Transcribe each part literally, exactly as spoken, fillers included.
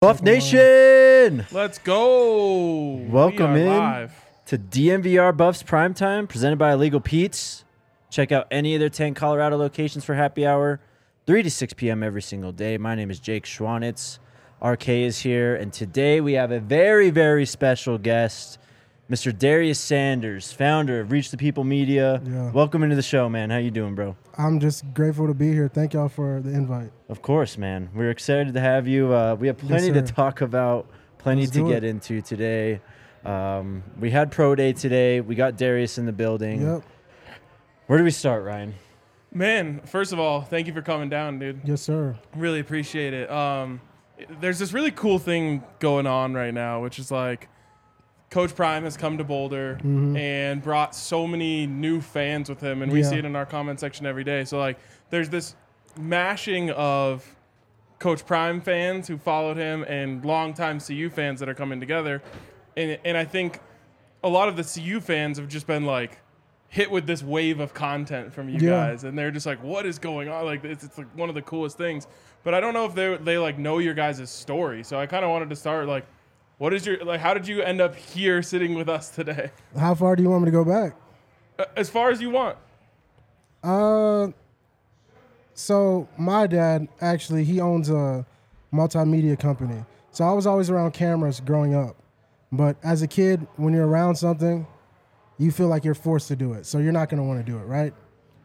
Buff Nation! Let's go! Welcome We are in live. to D M V R Buffs Primetime, presented by Illegal Pete's. Check out any of their ten Colorado locations for happy hour, three to six p.m. every single day. My name is Jake Schwanitz. R K is here, and today we have a very, very special guest, Mister Darius Sanders, founder of Reach the People Media. Yeah. Welcome into the show, man. How you doing, bro? I'm just grateful to be here. Thank y'all for the invite. Of course, man. We're excited to have you. Uh, we have plenty Yes, to sir. talk about, plenty Let's to do get it. into today. Um, we had Pro Day today. We got Darius in the building. Yep. Where do we start, Ryan? Man, first of all, thank you for coming down, dude. Yes, sir. Really appreciate it. Um, there's this really cool thing going on right now, which is like Coach Prime has come to Boulder Mhm. and brought so many new fans with him, and we Yeah. see it in our comment section every day. So like, there's this mashing of Coach Prime fans who followed him and longtime C U fans that are coming together, and and I think a lot of the C U fans have just been like hit with this wave of content from you Yeah. guys, and they're just like, what is going on? Like, it's, it's like one of the coolest things. But I don't know if they they like know your guys' story. So I kind of wanted to start like, what is your like? How did you end up here sitting with us today? How far do you want me to go back? Uh, As far as you want. Uh, so my dad actually he owns a multimedia company. So I was always around cameras growing up, but as a kid, when you're around something, you feel like you're forced to do it. So you're not going to want to do it, right?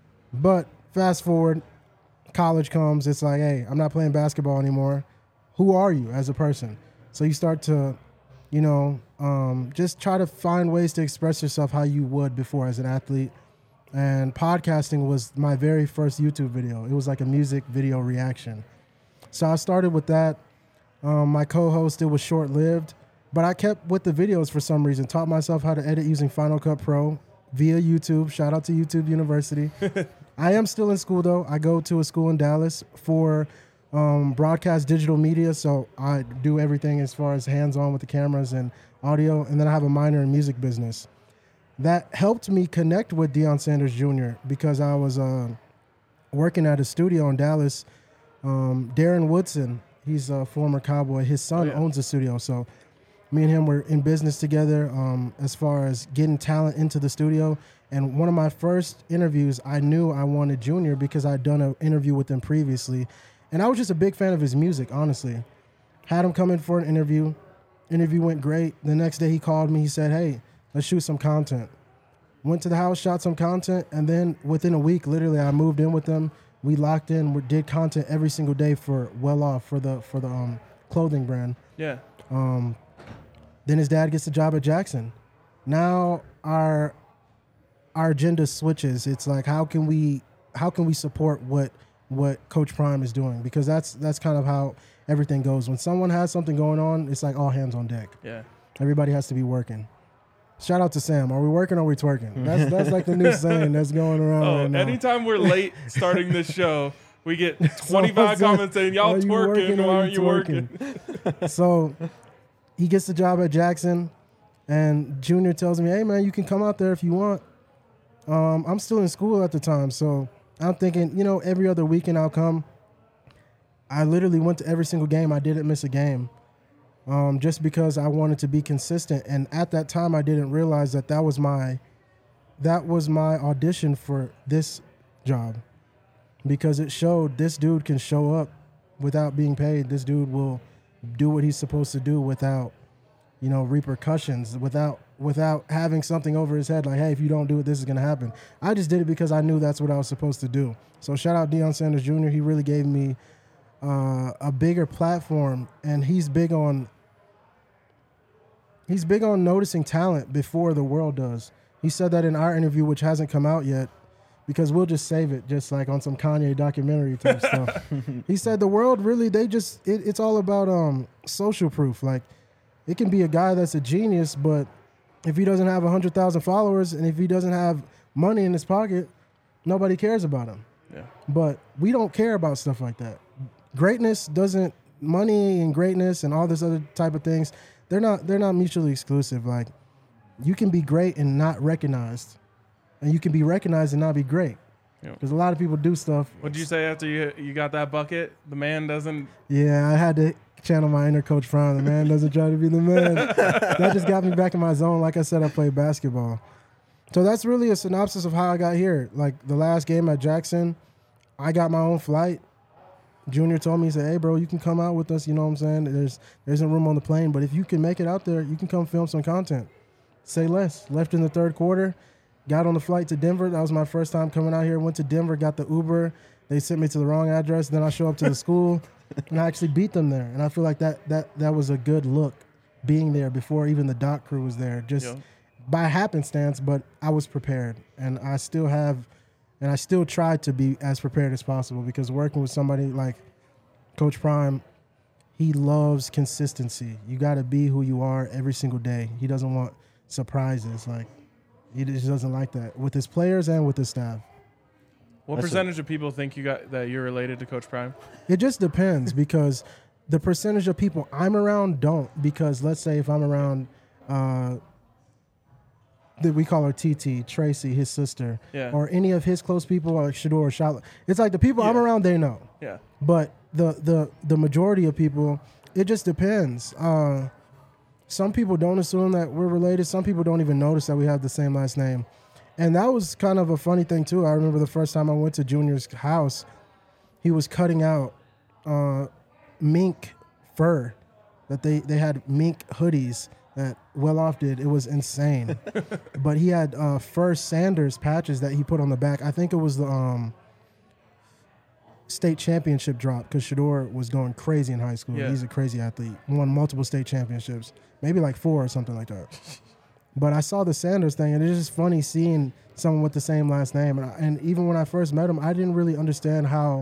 But fast forward, college comes. It's like, hey, I'm not playing basketball anymore. Who are you as a person? So you start to, you know, um, just try to find ways to express yourself how you would before as an athlete. And podcasting was my very first YouTube video. It was like a music video reaction. So I started with that. Um, my co-host, it was short-lived, but I kept with the videos for some reason. Taught myself how to edit using Final Cut Pro via YouTube. Shout out to YouTube University. I am still in school, though. I go to a school in Dallas for um, broadcast digital media, so I do everything as far as hands-on with the cameras and audio, and then I have a minor in music business. That helped me connect with Deion Sanders Junior because I was uh, working at a studio in Dallas. Um, Darren Woodson, he's a former Cowboy. His son Oh, yeah. owns a studio, so me and him were in business together um, as far as getting talent into the studio. And one of my first interviews, I knew I wanted Junior because I'd done an interview with him previously. And I was just a big fan of his music, honestly. Had him come in for an interview. Interview went great. The next day he called me. He said, hey, let's shoot some content. Went to the house, shot some content, and then within a week, literally, I moved in with them. We locked in. We did content every single day for Well Off, for the for the um, clothing brand. Yeah. Um, then his dad gets a job at Jackson. Now our our agenda switches. It's like how can we how can we support what what Coach Prime is doing? Because that's that's kind of how everything goes. When someone has something going on, it's like all hands on deck. Yeah. Everybody has to be working. Shout out to Sam. Are we working or are we twerking? That's that's like the new saying that's going around Oh, right now. anytime we're late starting this show, we get twenty-five Someone comments saying, y'all "Are you twerking, working or why are aren't you working? So he gets the job at Jackson, and Junior tells me, hey, man, you can come out there if you want. Um, I'm still in school at the time, so I'm thinking, you know, every other weekend I'll come. I literally went to every single game. I didn't miss a game um, just because I wanted to be consistent. And at that time, I didn't realize that that was my, that was my audition for this job because it showed this dude can show up without being paid. This dude will do what he's supposed to do without, you know, repercussions, without without having something over his head like, hey, if you don't do it, this is going to happen. I just did it because I knew that's what I was supposed to do. So shout out Deion Sanders Junior He really gave me uh, a bigger platform, and he's big on he's big on noticing talent before the world does. He said that in our interview, which hasn't come out yet, because we'll just save it, just like on some Kanye documentary type stuff. He said the world really, they just, it, it's all about um, social proof. Like, it can be a guy that's a genius, but if he doesn't have one hundred thousand followers and if he doesn't have money in his pocket, nobody cares about him. Yeah. But we don't care about stuff like that. Greatness doesn't, money and greatness and all this other type of things, they're not, they're not mutually exclusive. Like, you can be great and not recognized. And you can be recognized and not be great. Yeah. Because a lot of people do stuff. What'd you say after you you got that bucket? The man doesn't. Yeah, I had to channel my inner Coach Prime. The man doesn't try to be the man. That just got me back in my zone. Like I said, I played basketball. So that's really a synopsis of how I got here. Like the last game at Jackson, I got my own flight. Junior told me, he said, hey, bro, you can come out with us. You know what I'm saying? There's, there isn't room on the plane, but if you can make it out there, you can come film some content. Say less. Left in the third quarter. Got on the flight to Denver. That was my first time coming out here. Went to Denver, got the Uber. They sent me to the wrong address. Then I show up to the school, and I actually beat them there. And I feel like that that that was a good look, being there before even the doc crew was there. Just yeah. by happenstance, but I was prepared. And I still have, and I still try to be as prepared as possible, because working with somebody like Coach Prime, he loves consistency. You got to be who you are every single day. He doesn't want surprises. Like, he just doesn't like that with his players and with his staff. What That's percentage a, of people think you got that you're related to Coach Prime? It just depends, because the percentage of people I'm around don't. Because let's say if I'm around, uh, that we call her T T, Tracy, his sister, yeah. or any of his close people, like Shador or Charlotte. It's like the people yeah. I'm around, they know. Yeah. But the the the majority of people, it just depends. Uh, some people don't assume that we're related. Some people don't even notice that we have the same last name. And that was kind of a funny thing, too. I remember the first time I went to Junior's house, he was cutting out uh, mink fur. That they, they had mink hoodies that Well-Off did. It was insane. But he had uh, First Sanders patches that he put on the back. I think it was the um, state championship drop, because Shador was going crazy in high school. Yeah. He's a crazy athlete. Won multiple state championships, maybe like four or something like that. But I saw the Sanders thing, and it's just funny seeing someone with the same last name. And, I, and even when I first met him, I didn't really understand how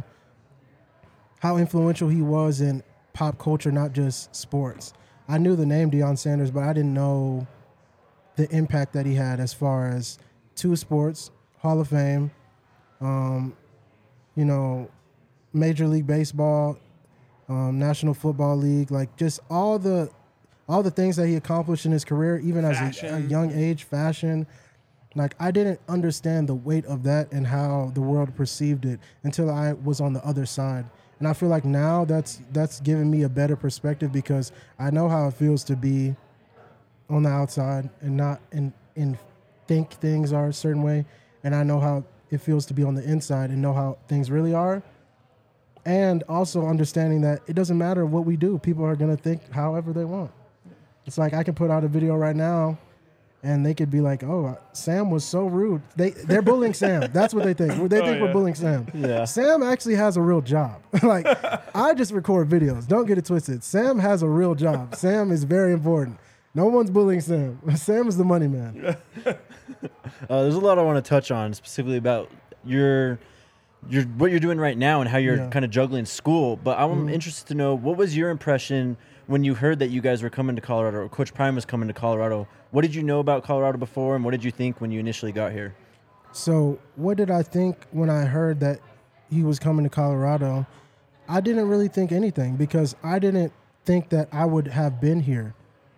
how influential he was in pop culture, not just sports. I knew the name Deion Sanders, but I didn't know the impact that he had as far as two sports, Hall of Fame, um, you know, Major League Baseball, um, National Football League, like just all the all the things that he accomplished in his career, even fashion. as a, a young age, fashion. Like, I didn't understand the weight of that and how the world perceived it until I was on the other side. And I feel like now that's that's given me a better perspective, because I know how it feels to be on the outside and not in, in think things are a certain way. And I know how it feels to be on the inside and know how things really are. And also understanding that it doesn't matter what we do. People are going to think however they want. It's like I can put out a video right now, and they could be like, "Oh, Sam was so rude." They they're bullying Sam. That's what they think. They think oh, yeah. we're bullying Sam. Yeah. Sam actually has a real job. Like, I just record videos. Don't get it twisted. Sam has a real job. Sam is very important. No one's bullying Sam. Sam is the money man. uh, there's a lot I want to touch on, specifically about your your what you're doing right now and how you're yeah. kind of juggling school. But I'm mm-hmm. interested to know, what was your impression when you heard that you guys were coming to Colorado, or Coach Prime was coming to Colorado? What did you know about Colorado before, and what did you think when you initially got here? So what did I think when I heard that he was coming to Colorado? I didn't really think anything, because I didn't think that I would have been here.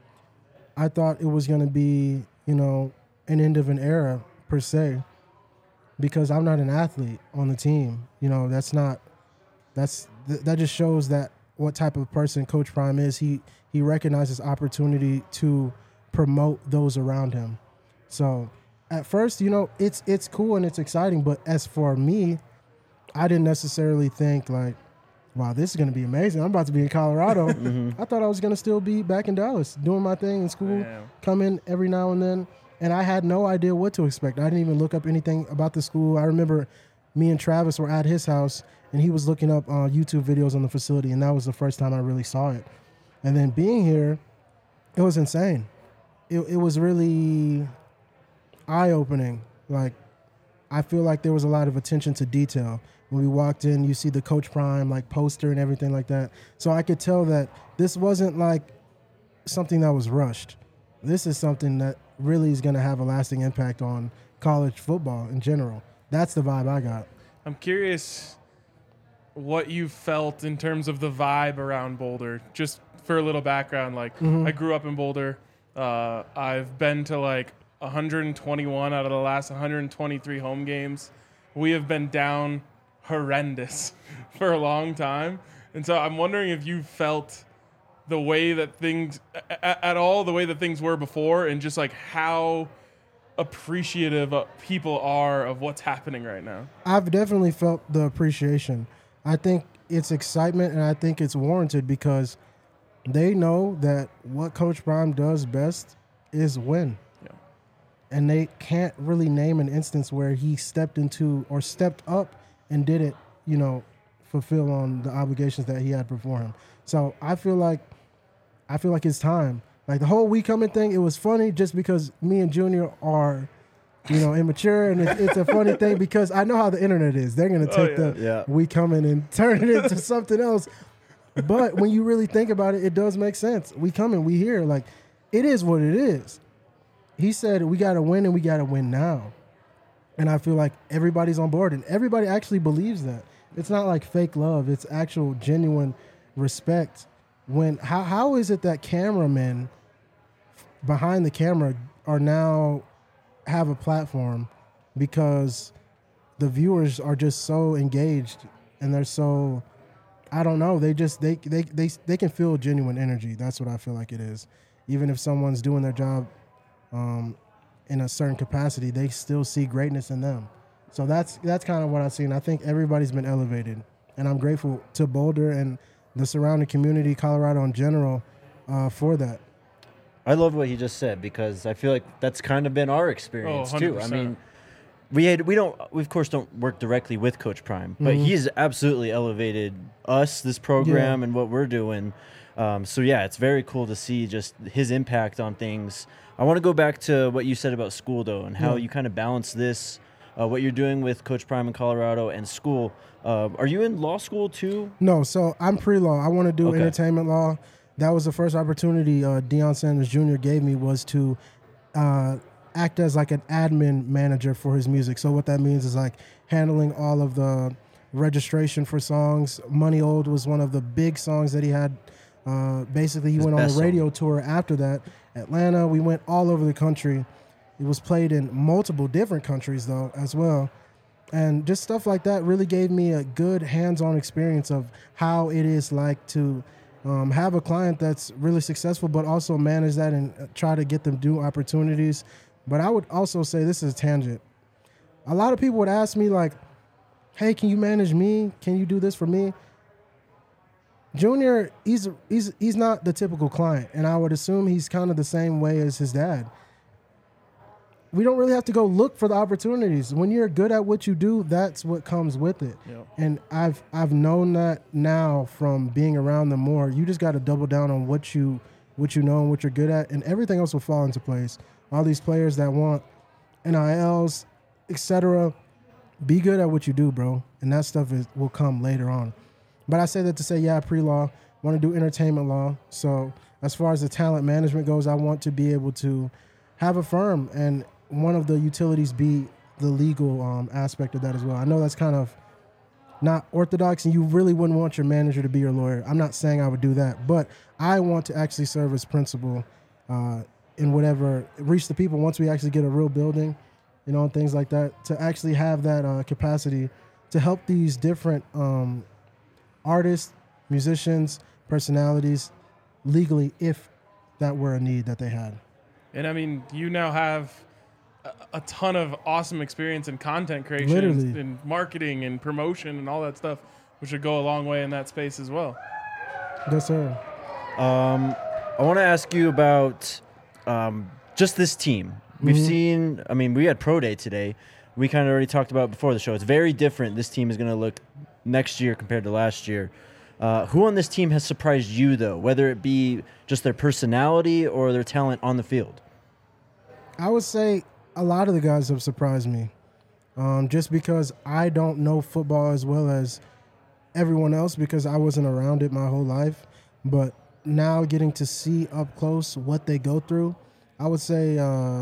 I thought it was going to be, you know, an end of an era, per se, because I'm not an athlete on the team. You know, that's not, that's, th- that just shows that what type of person Coach Prime is. He he recognizes opportunity to promote those around him. So at first, you know, it's it's cool and it's exciting. But as for me, I didn't necessarily think like, wow, this is going to be amazing. I'm about to be in Colorado. mm-hmm. I thought I was going to still be back in Dallas doing my thing in school, yeah. come in every now and then. And I had no idea what to expect. I didn't even look up anything about the school. I remember me and Travis were at his house, and he was looking up uh, YouTube videos on the facility, and that was the first time I really saw it. And then being here, it was insane. It, it was really eye-opening. Like, I feel like there was a lot of attention to detail. When we walked in, you see the Coach Prime like poster and everything like that. So I could tell that this wasn't like something that was rushed. This is something that really is going to have a lasting impact on college football in general. That's the vibe I got. I'm curious what you felt in terms of the vibe around Boulder. Just for a little background, like mm-hmm. I grew up in Boulder. Uh, I've been to like one hundred twenty-one out of the last one hundred twenty-three home games. We have been down horrendous for a long time. And so I'm wondering if you felt the way that things at, at all the way that things were before, and just like how appreciative uh, people are of what's happening right now. I've definitely felt the appreciation. I think it's excitement, and I think it's warranted because they know that what Coach Prime does best is win. Yeah. And they can't really name an instance where he stepped into or stepped up and didn't, you know, fulfill on the obligations that he had before him. So I feel like I feel like it's time. Like the whole We Coming thing, it was funny just because me and Junior are, you know, immature, and it's, it's a funny thing because I know how the internet is. They're gonna take Oh, yeah. the Yeah. We Coming and turn it into something else. But when you really think about it, it does make sense. We coming, we here. Like, it is what it is. He said we got to win, and we got to win now. And I feel like everybody's on board, and everybody actually believes that. It's not like fake love. It's actual genuine respect. When how how is it that cameramen behind the camera are now have a platform because the viewers are just so engaged, and they're so, I don't know, they just they they they they can feel genuine energy. That's what I feel like it is. Even if someone's doing their job um, in a certain capacity, they still see greatness in them. So that's that's kind of what I've seen. I think everybody's been elevated, and I'm grateful to Boulder and the surrounding community, Colorado in general, uh, for that. I love what he just said because I feel like that's kind of been our experience Oh, too. I one hundred percent. mean, we had we don't we of course don't work directly with Coach Prime, but Mhm. he's absolutely elevated us, this program, and what we're doing. Um, so yeah, it's very cool to see just his impact on things. I want to go back to what you said about school though, and how Yeah. you kind of balance this, uh, what you're doing with Coach Prime in Colorado and school. Uh, are you in law school too? No, so I'm pre-law. I want to do Okay. entertainment law. That was the first opportunity uh, Deion Sanders Junior gave me, was to uh, act as like an admin manager for his music. So what that means is like handling all of the registration for songs. Money Old was one of the big songs that he had. Uh, basically, he His went on a best song. radio tour after that. Atlanta, we went all over the country. It was played in multiple different countries though as well. And just stuff like that really gave me a good hands-on experience of how it is like to um, have a client that's really successful, but also manage that and uh, try to get them new opportunities. But I would also say, this is a tangent. A lot of people would ask me like, hey, can you manage me? Can you do this for me? Junior, he's he's he's not the typical client, and I would assume he's kind of the same way as his dad. We don't really have to go look for the opportunities. When you're good at what you do, that's what comes with it. Yep. And I've I've known that now from being around them more. You just got to double down on what you what you know and what you're good at, and everything else will fall into place. All these players that want N I Ls, et cetera, be good at what you do, bro, and that stuff is will come later on. But I say that to say, yeah, pre-law, want to do entertainment law. So as far as the talent management goes, I want to be able to have a firm, and one of the utilities be the legal um, aspect of that as well. I know that's kind of not orthodox, and you really wouldn't want your manager to be your lawyer. I'm not saying I would do that, but I want to actually serve as principal uh, in whatever, reach the people once we actually get a real building, you know, and things like that, to actually have that uh, capacity to help these different um, artists, musicians, personalities legally, if that were a need that they had. And I mean, you now have a, a ton of awesome experience in content creation, Literally. and marketing and promotion and all that stuff, which would go a long way in that space as well. Yes, sir. Um, I want to ask you about um, just this team. We've Mhm. seen, I mean, we had Pro Day today. We kind of already talked about it before the show. It's very different. This team is going to look next year compared to last year. Uh, who on this team has surprised you, though, whether it be just their personality or their talent on the field? I would say a lot of the guys have surprised me, um, just because I don't know football as well as everyone else because I wasn't around it my whole life. But now getting to see up close what they go through, I would say, uh,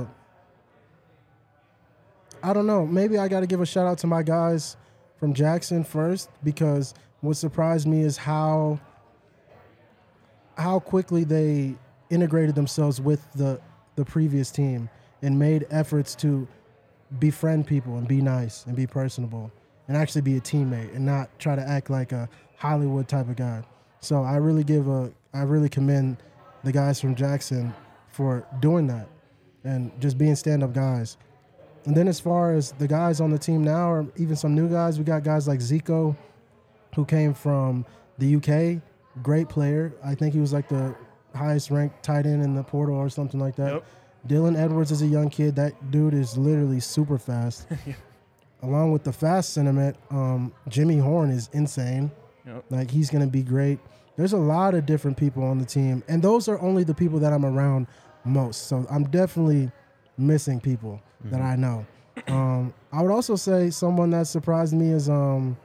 I don't know, maybe I got to give a shout out to my guys from Jackson first, because what surprised me is how how quickly they integrated themselves with the the previous team and made efforts to befriend people and be nice and be personable and actually be a teammate and not try to act like a Hollywood type of guy. So I really give a, I really commend the guys from Jackson for doing that and just being stand-up guys. And then as far as the guys on the team now, or even some new guys, we got guys like Zico, who came from the U K, great player. I think he was like the highest ranked tight end in the portal or something like that. Yep. Dylan Edwards is a young kid. That dude is literally super fast. Yeah. Along with the fast sentiment, um, Jimmy Horn is insane. Yep. Like, he's going to be great. There's a lot of different people on the team, and those are only the people that I'm around most. So I'm definitely missing people mm-hmm. that I know. Um, I would also say someone that surprised me is, um,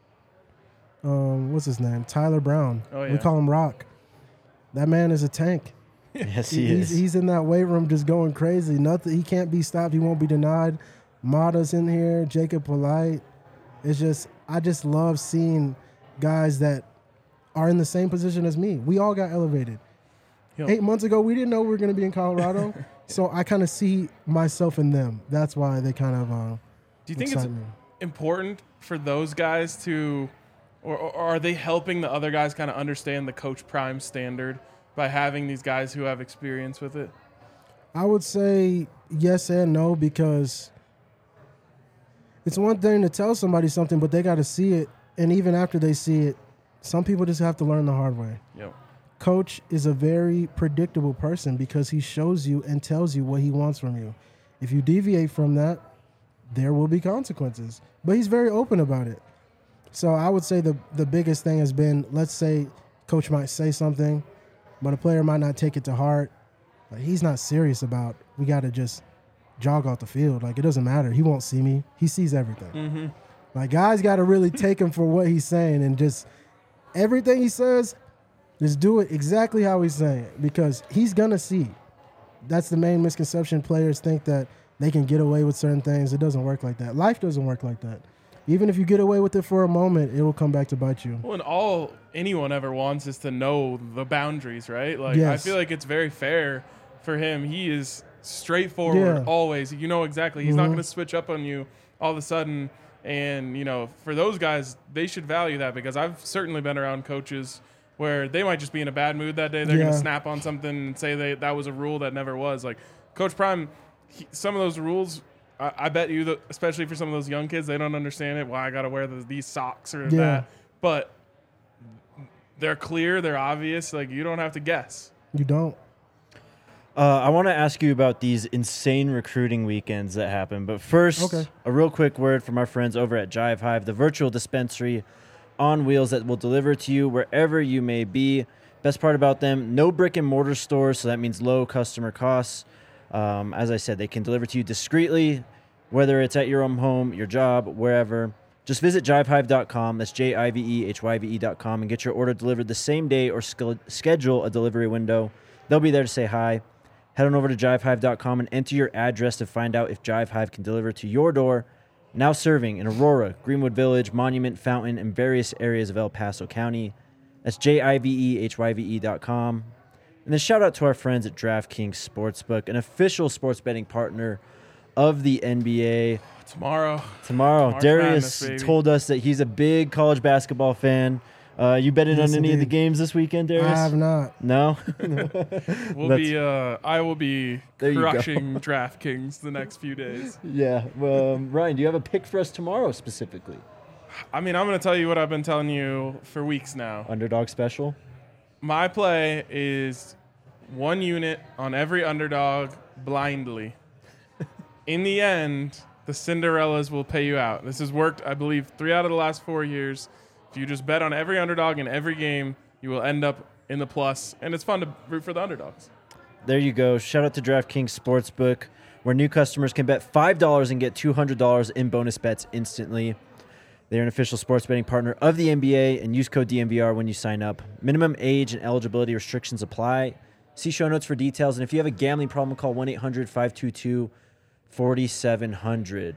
um, what's his name? Tyler Brown. Oh, yeah. We call him Rock. That man is a tank. Yes, he he's, is. He's in that weight room just going crazy. Nothing. He can't be stopped. He won't be denied. Mata's in here. Jacob Polite. It's just, I just love seeing guys that are in the same position as me. We all got elevated. Yep. Eight months ago, we didn't know we were going to be in Colorado. So I kind of see myself in them. That's why they kind of uh, Do you think it's me. important for those guys to, or, or are they helping the other guys kind of understand the Coach Prime standard by having these guys who have experience with it? I would say yes and no, because it's one thing to tell somebody something, but they got to see it. And even after they see it, some people just have to learn the hard way. Yep. Coach is a very predictable person because he shows you and tells you what he wants from you. If you deviate from that, there will be consequences. But he's very open about it. So I would say the, the biggest thing has been, let's say Coach might say something, but a player might not take it to heart. Like, he's not serious about, we got to just jog off the field. Like, it doesn't matter. He won't see me. He sees everything. Mm-hmm. Like, guys got to really take him for what he's saying, and just everything he says, just do it exactly how he's saying it, because he's going to see. That's the main misconception. Players think that they can get away with certain things. It doesn't work like that. Life doesn't work like that. Even if you get away with it for a moment, it will come back to bite you. Well, and all anyone ever wants is to know the boundaries, right? Like, yes. I feel like it's very fair for him. He is straightforward yeah. always. You know exactly. He's mm-hmm. not going to switch up on you all of a sudden. And, you know, for those guys, they should value that, because I've certainly been around coaches where they might just be in a bad mood that day. They're yeah. going to snap on something and say they, that was a rule that never was. Like, Coach Prime, he, some of those rules, I, I bet you, that, especially for some of those young kids, they don't understand it. Why I got to wear the, these socks or yeah. that. But they're clear. They're obvious. Like, you don't have to guess. You don't. Uh, I want to ask you about these insane recruiting weekends that happen. But first, okay. a real quick word from our friends over at Jive Hive, the virtual dispensary on wheels that will deliver to you wherever you may be. Best part about them, no brick and mortar stores, so that means low customer costs. Um, as I said, they can deliver to you discreetly, whether it's at your own home, your job, wherever. Just visit jive hive dot com, that's J I V E H Y V E dot com, and get your order delivered the same day or sch- schedule a delivery window. They'll be there to say hi. Head on over to jive hive dot com and enter your address to find out if Jive Hive can deliver to your door. Now serving in Aurora, Greenwood Village, Monument, Fountain, and various areas of El Paso County. That's J I V E H Y V E dot com. And then shout out to our friends at DraftKings Sportsbook, an official sports betting partner of the N B A. Tomorrow. Tomorrow. March Darius Madness, told us that he's a big college basketball fan. Uh, you betting yes, on any indeed. of the games this weekend, Darius? I have not. No? We'll That's- be. Uh, I will be There you go. crushing DraftKings the next few days. Yeah. Well, um, Ryan, do you have a pick for us tomorrow specifically? I mean, I'm going to tell you what I've been telling you for weeks now. Underdog special? My play is one unit on every underdog blindly. In the end, the Cinderellas will pay you out. This has worked, I believe, three out of the last four years. If you just bet on every underdog in every game, you will end up in the plus, and it's fun to root for the underdogs. There you go. Shout out to DraftKings Sportsbook, where new customers can bet five dollars and get two hundred dollars in bonus bets instantly. They're an official sports betting partner of the N B A, and use code D M V R when you sign up. Minimum age and eligibility restrictions apply. See show notes for details, and if you have a gambling problem, call one eight hundred five two two four seven zero zero.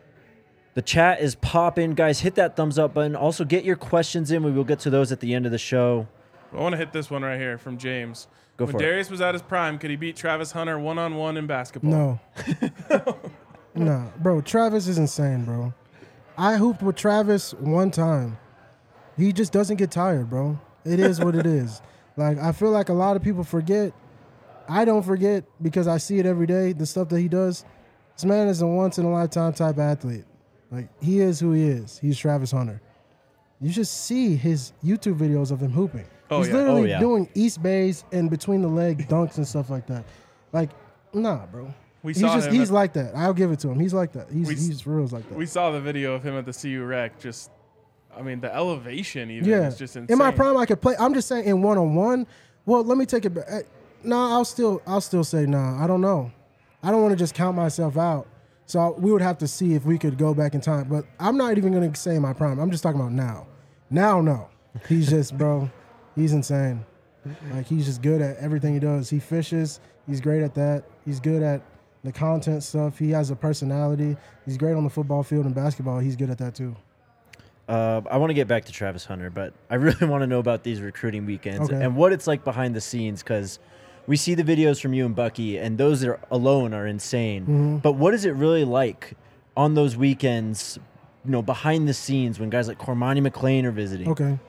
The chat is popping. Guys, hit that thumbs up button. Also, get your questions in. We will get to those at the end of the show. I want to hit this one right here from James. Go when for it. Darius was at his prime, could he beat Travis Hunter one-on-one in basketball? No. No. Bro, Travis is insane, bro. I hooped with Travis one time. He just doesn't get tired, bro. It is what it is. Like, I feel like a lot of people forget. I don't forget because I see it every day, the stuff that he does. This man is a once-in-a-lifetime type athlete. Like, he is who he is. He's Travis Hunter. You should see his YouTube videos of him hooping. Oh, He's yeah. literally Oh, yeah. doing East Bays and between the leg dunks and stuff like that. Like, nah, bro. We he's saw just him he's at- like that. I'll give it to him. He's like that. He's We s- he's real like that. We saw the video of him at the C U Rec. Just, I mean, the elevation even Yeah. is just insane. In my prime, I could play. I'm just saying, in one on one. Well, let me take it back. Eh, Nah, I'll still, I'll still say nah. I don't know. I don't want to just count myself out. So I- we would have to see if we could go back in time. But I'm not even going to say my prime. I'm just talking about now. Now, no. He's just, bro. He's insane. Like, he's just good at everything he does. He fishes. He's great at that. He's good at the content stuff. He has a personality. He's great on the football field and basketball. He's good at that too. Uh, I want to get back to Travis Hunter, but I really want to know about these recruiting weekends Okay. and what it's like behind the scenes, because we see the videos from you and Bucky, and those are alone are insane. Mm-hmm. But what is it really like on those weekends, you know, behind the scenes when guys like Cormani McLean are visiting? Okay.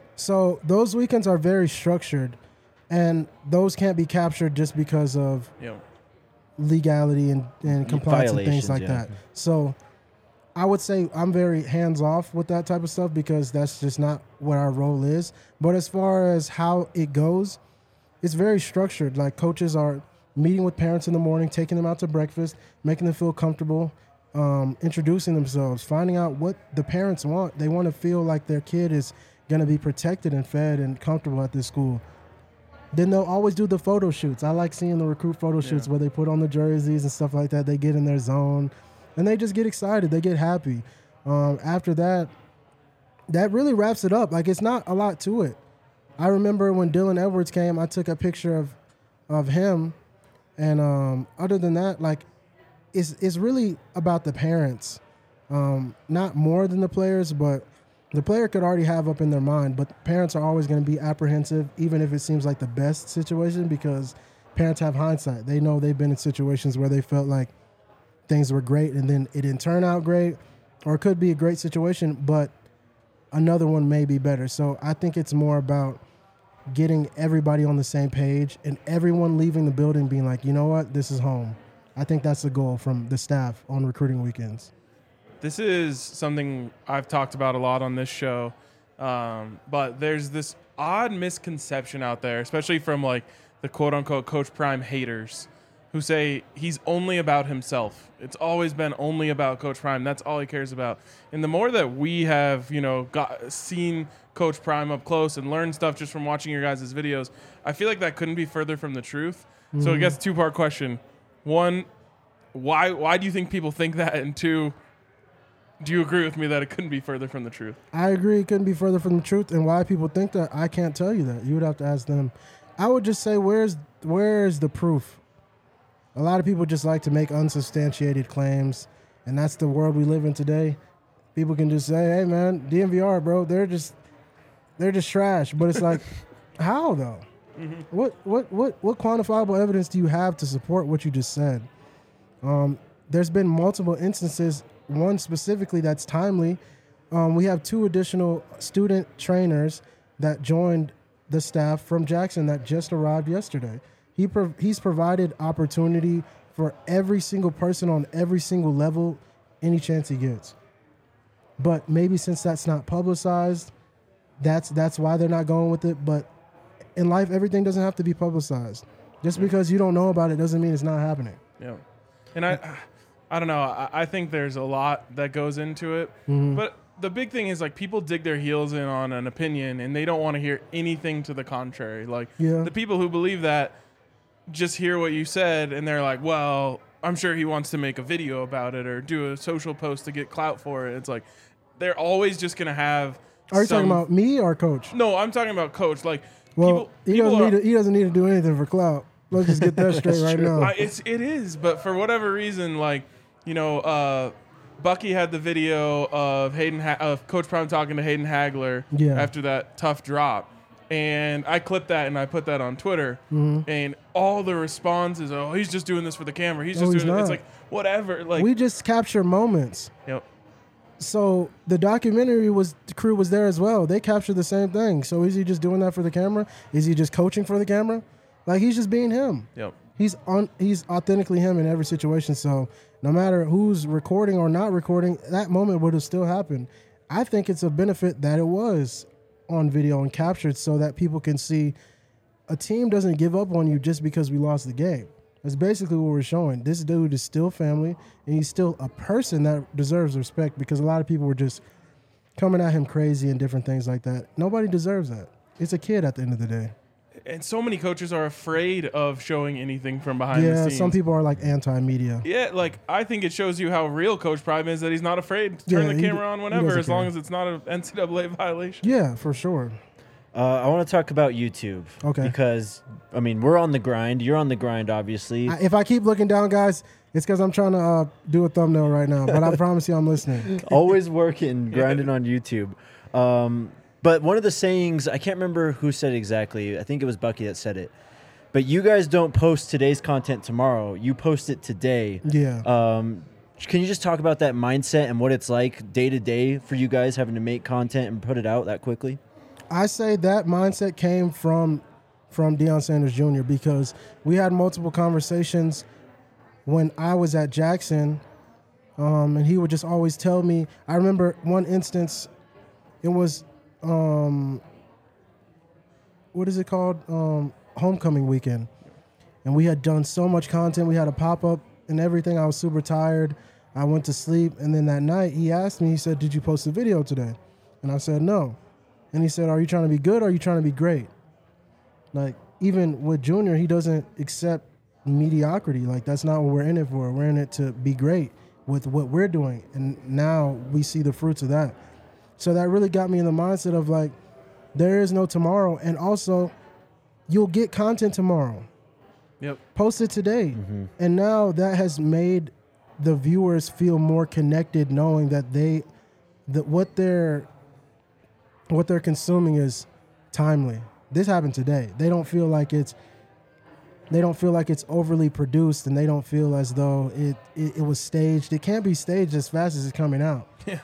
So those weekends are very structured, and those can't be captured just because of You know, legality and, and compliance and things Violations, like yeah. that. So I would say I'm very hands off with that type of stuff because that's just not what our role is. But as far as how it goes, it's very structured. Like, coaches are meeting with parents in the morning, taking them out to breakfast, making them feel comfortable, um, introducing themselves, finding out what the parents want. They want to feel like their kid is going to be protected and fed and comfortable at this school. Then they'll always do the photo shoots. I like seeing the recruit photo shoots Yeah. where they put on the jerseys and stuff like that. They get in their zone, and they just get excited. They get happy. Um, after that, that really wraps it up. Like, it's not a lot to it. I remember when Dylan Edwards came, I took a picture of of him, and um, other than that, like, it's it's really about the parents, um, not more than the players, but the player could already have up in their mind, but parents are always going to be apprehensive, even if it seems like the best situation, because parents have hindsight. They know they've been in situations where they felt like things were great and then it didn't turn out great, or it could be a great situation, but another one may be better. So I think it's more about getting everybody on the same page and everyone leaving the building being like, you know what, this is home. I think that's the goal from the staff on recruiting weekends. this is something I've talked about a lot on this show, um, but there's this odd misconception out there, especially from like the quote-unquote Coach Prime haters, who say he's only about himself. It's always been only about Coach Prime. That's all he cares about. And the more that we have, you know, got seen Coach Prime up close and learned stuff just from watching your guys' videos, I feel like that couldn't be further from the truth. Mm-hmm. So I guess two-part question. One, why why do you think people think that? And two, do you agree with me that it couldn't be further from the truth? I agree it couldn't be further from the truth, and why people think that, I can't tell you that. You would have to ask them. I would just say, where's where's the proof? A lot of people just like to make unsubstantiated claims, and that's the world we live in today. People can just say, hey, man, D M V R, bro, they're just they're just trash. But it's like, how, though? Mm-hmm. What, what, what, what quantifiable evidence do you have to support what you just said? Um, there's been multiple instances, one specifically that's timely. Um, we have two additional student trainers that joined the staff from Jackson that just arrived yesterday. He prov- he's provided opportunity for every single person on every single level, any chance he gets. But maybe since that's not publicized, that's that's why they're not going with it. But in life, everything doesn't have to be publicized. Just because you don't know about it doesn't mean it's not happening. Yeah. And I I don't know. I, I think there's a lot that goes into it. Mm-hmm. But the big thing is, like, people dig their heels in on an opinion and they don't want to hear anything to the contrary. Like, Yeah. the people who believe that just hear what you said and they're like, well, I'm sure he wants to make a video about it or do a social post to get clout for it. It's like, they're always just going to have Are you some- talking about me or Coach? No, I'm talking about Coach. Like, Well, people, he people doesn't are, need to, he doesn't need to do anything for clout. Let's just get that straight right now. I, it's it is, but for whatever reason, like, you know, uh, Bucky had the video of Hayden ha- of Coach Prime talking to Hayden Hagler Yeah. after that tough drop, and I clipped that and I put that on Twitter, Mm-hmm. and all the responses, oh, he's just doing this for the camera. He's No, just he's doing it. It's not. like whatever. Like, We just capture moments. yep. So the documentary was the crew was there as well. They captured the same thing. So is he just doing that for the camera? Is he just coaching for the camera? Like he's just being him. Yep. He's on. He's authentically him in every situation. So no matter who's recording or not recording, that moment would have still happened. I think it's a benefit that it was on video and captured so that people can see a team doesn't give up on you just because we lost the game. That's basically what we're showing. This dude is still family, and he's still a person that deserves respect because a lot of people were just coming at him crazy and different things like that. Nobody deserves that. It's a kid at the end of the day. And so many coaches are afraid of showing anything from behind the Yeah, scenes. some people are like anti-media. Yeah, like I think it shows you how real Coach Prime is that he's not afraid to turn Yeah, the he camera d- on he whenever, doesn't as long care. as it's not an N C double A violation. Yeah, for sure. Uh, I want to talk about YouTube. Okay. Because, I mean, we're on the grind. You're on the grind, obviously. I, if I keep looking down, guys, it's because I'm trying to uh, do a thumbnail right now. But I promise you I'm listening. Always working, grinding on YouTube. Um, but one of the sayings, I can't remember who said it exactly. I think it was Bucky that said it. But you guys don't post today's content tomorrow. You post it today. Yeah. Um, can you just talk about that mindset and what it's like day to day for you guys having to make content and put it out that quickly? I say that mindset came from from Deion Sanders Junior because we had multiple conversations when I was at Jackson, um, and he would just always tell me. I remember one instance, it was, um, what is it called? Um, homecoming weekend. And we had done so much content. We had a pop-up and everything. I was super tired. I went to sleep. And then that night, he asked me, he said, did you post a video today? And I said, no. And he said, are you trying to be good or are you trying to be great? Like, even with Junior, he doesn't accept mediocrity. Like, that's not what we're in it for. We're in it to be great with what we're doing. And now we see the fruits of that. So that really got me in the mindset of, like, there is no tomorrow. And also, you'll get content tomorrow. Yep. Post it today. Mm-hmm. And now that has made the viewers feel more connected, knowing that they, that what they're, what they're consuming is timely. This happened today. They don't feel like it's, they don't feel like it's overly produced, and they don't feel as though it, it, it was staged. It can't be staged as fast as it's coming out. Yeah.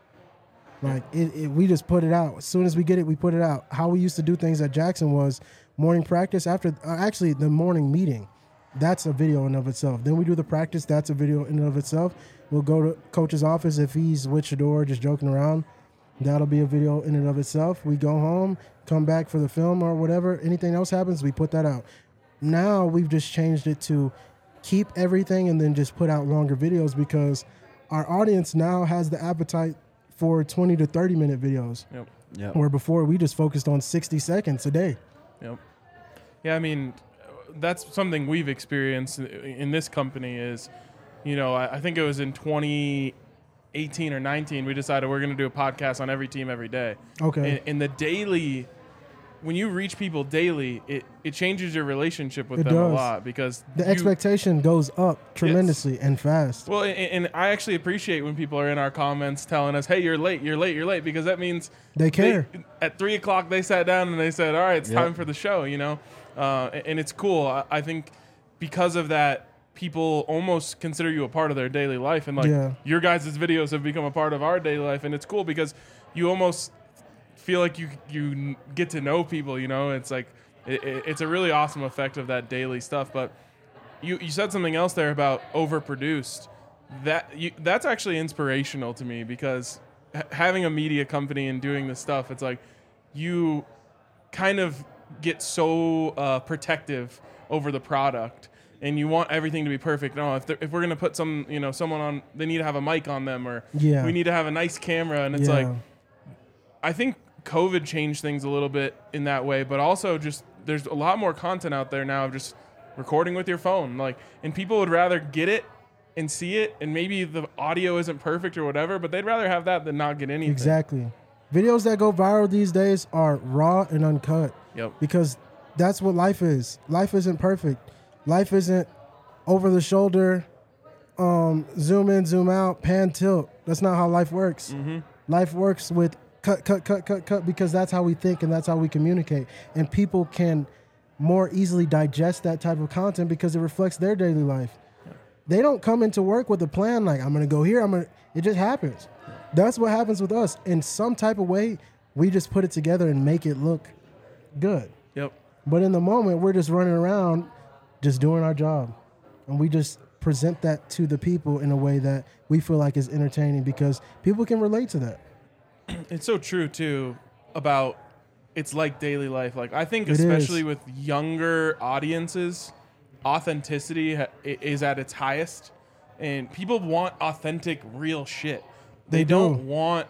Like, it, it, we just put it out. As soon as we get it, we put it out. How we used to do things at Jackson was morning practice after, uh, actually the morning meeting. That's a video in and of itself. Then we do the practice. That's a video in and of itself. We'll go to coach's office if he's with Shador just joking around. That'll be a video in and of itself. We go home, come back for the film or whatever. Anything else happens, we put that out. Now we've just changed it to keep everything and then just put out longer videos because our audience now has the appetite for twenty to thirty minute videos. Yep. Yep. Where before we just focused on sixty seconds a day. Yep. Yeah, I mean, that's something we've experienced in this company is, you know, I, I think it was in twenty eighteen or nineteen, we decided we're going to do a podcast on every team every day. Okay. And, and the daily, when you reach people daily, it, it changes your relationship with It them does. a lot because The you- expectation goes up tremendously and fast. Well, and, and I actually appreciate when people are in our comments telling us, "Hey, you're late, you're late, you're late," because that means They care. at three o'clock, they sat down and they said, "All right, it's Yep. time for the show." You know, uh, and, and it's cool. I, I think because of that, people almost consider you a part of their daily life, and like Yeah. your guys' videos have become a part of our daily life, and it's cool because you almost feel like you you get to know people. You know, it's like it, it, it's a really awesome effect of that daily stuff, but. You, you said something else there about overproduced. That you, that's actually inspirational to me because h- having a media company and doing this stuff, it's like you kind of get so uh, protective over the product, and you want everything to be perfect. No, if they're- if we're gonna put some, you know, someone on, they need to have a mic on them, or Yeah. we need to have a nice camera, and it's Yeah. like I think COVID changed things a little bit in that way, but also just there's a lot more content out there now of just recording with your phone, like, and people would rather get it and see it, and maybe the audio isn't perfect or whatever, but they'd rather have that than not get anything. Exactly. Videos that go viral these days are raw and uncut. Yep. Because that's what life is. Life isn't perfect. Life isn't over the shoulder, um, zoom in, zoom out, pan, tilt. That's not how life works. Mm-hmm. Life works with cut, cut, cut, cut, cut, because that's how we think and that's how we communicate. And people can more easily digest that type of content because it reflects their daily life. They don't come into work with a plan like, I'm going to go here, I'm going to, it just happens. that's what happens with us. In some type of way, we just put it together and make it look good. Yep. But in the moment, we're just running around, just doing our job. And we just present that to the people in a way that we feel like is entertaining because people can relate to that. It's so true, too, about it's like daily life. Like, I think It especially is. with younger audiences, authenticity ha- i- is at its highest. And people want authentic, real shit. They, They don't do. want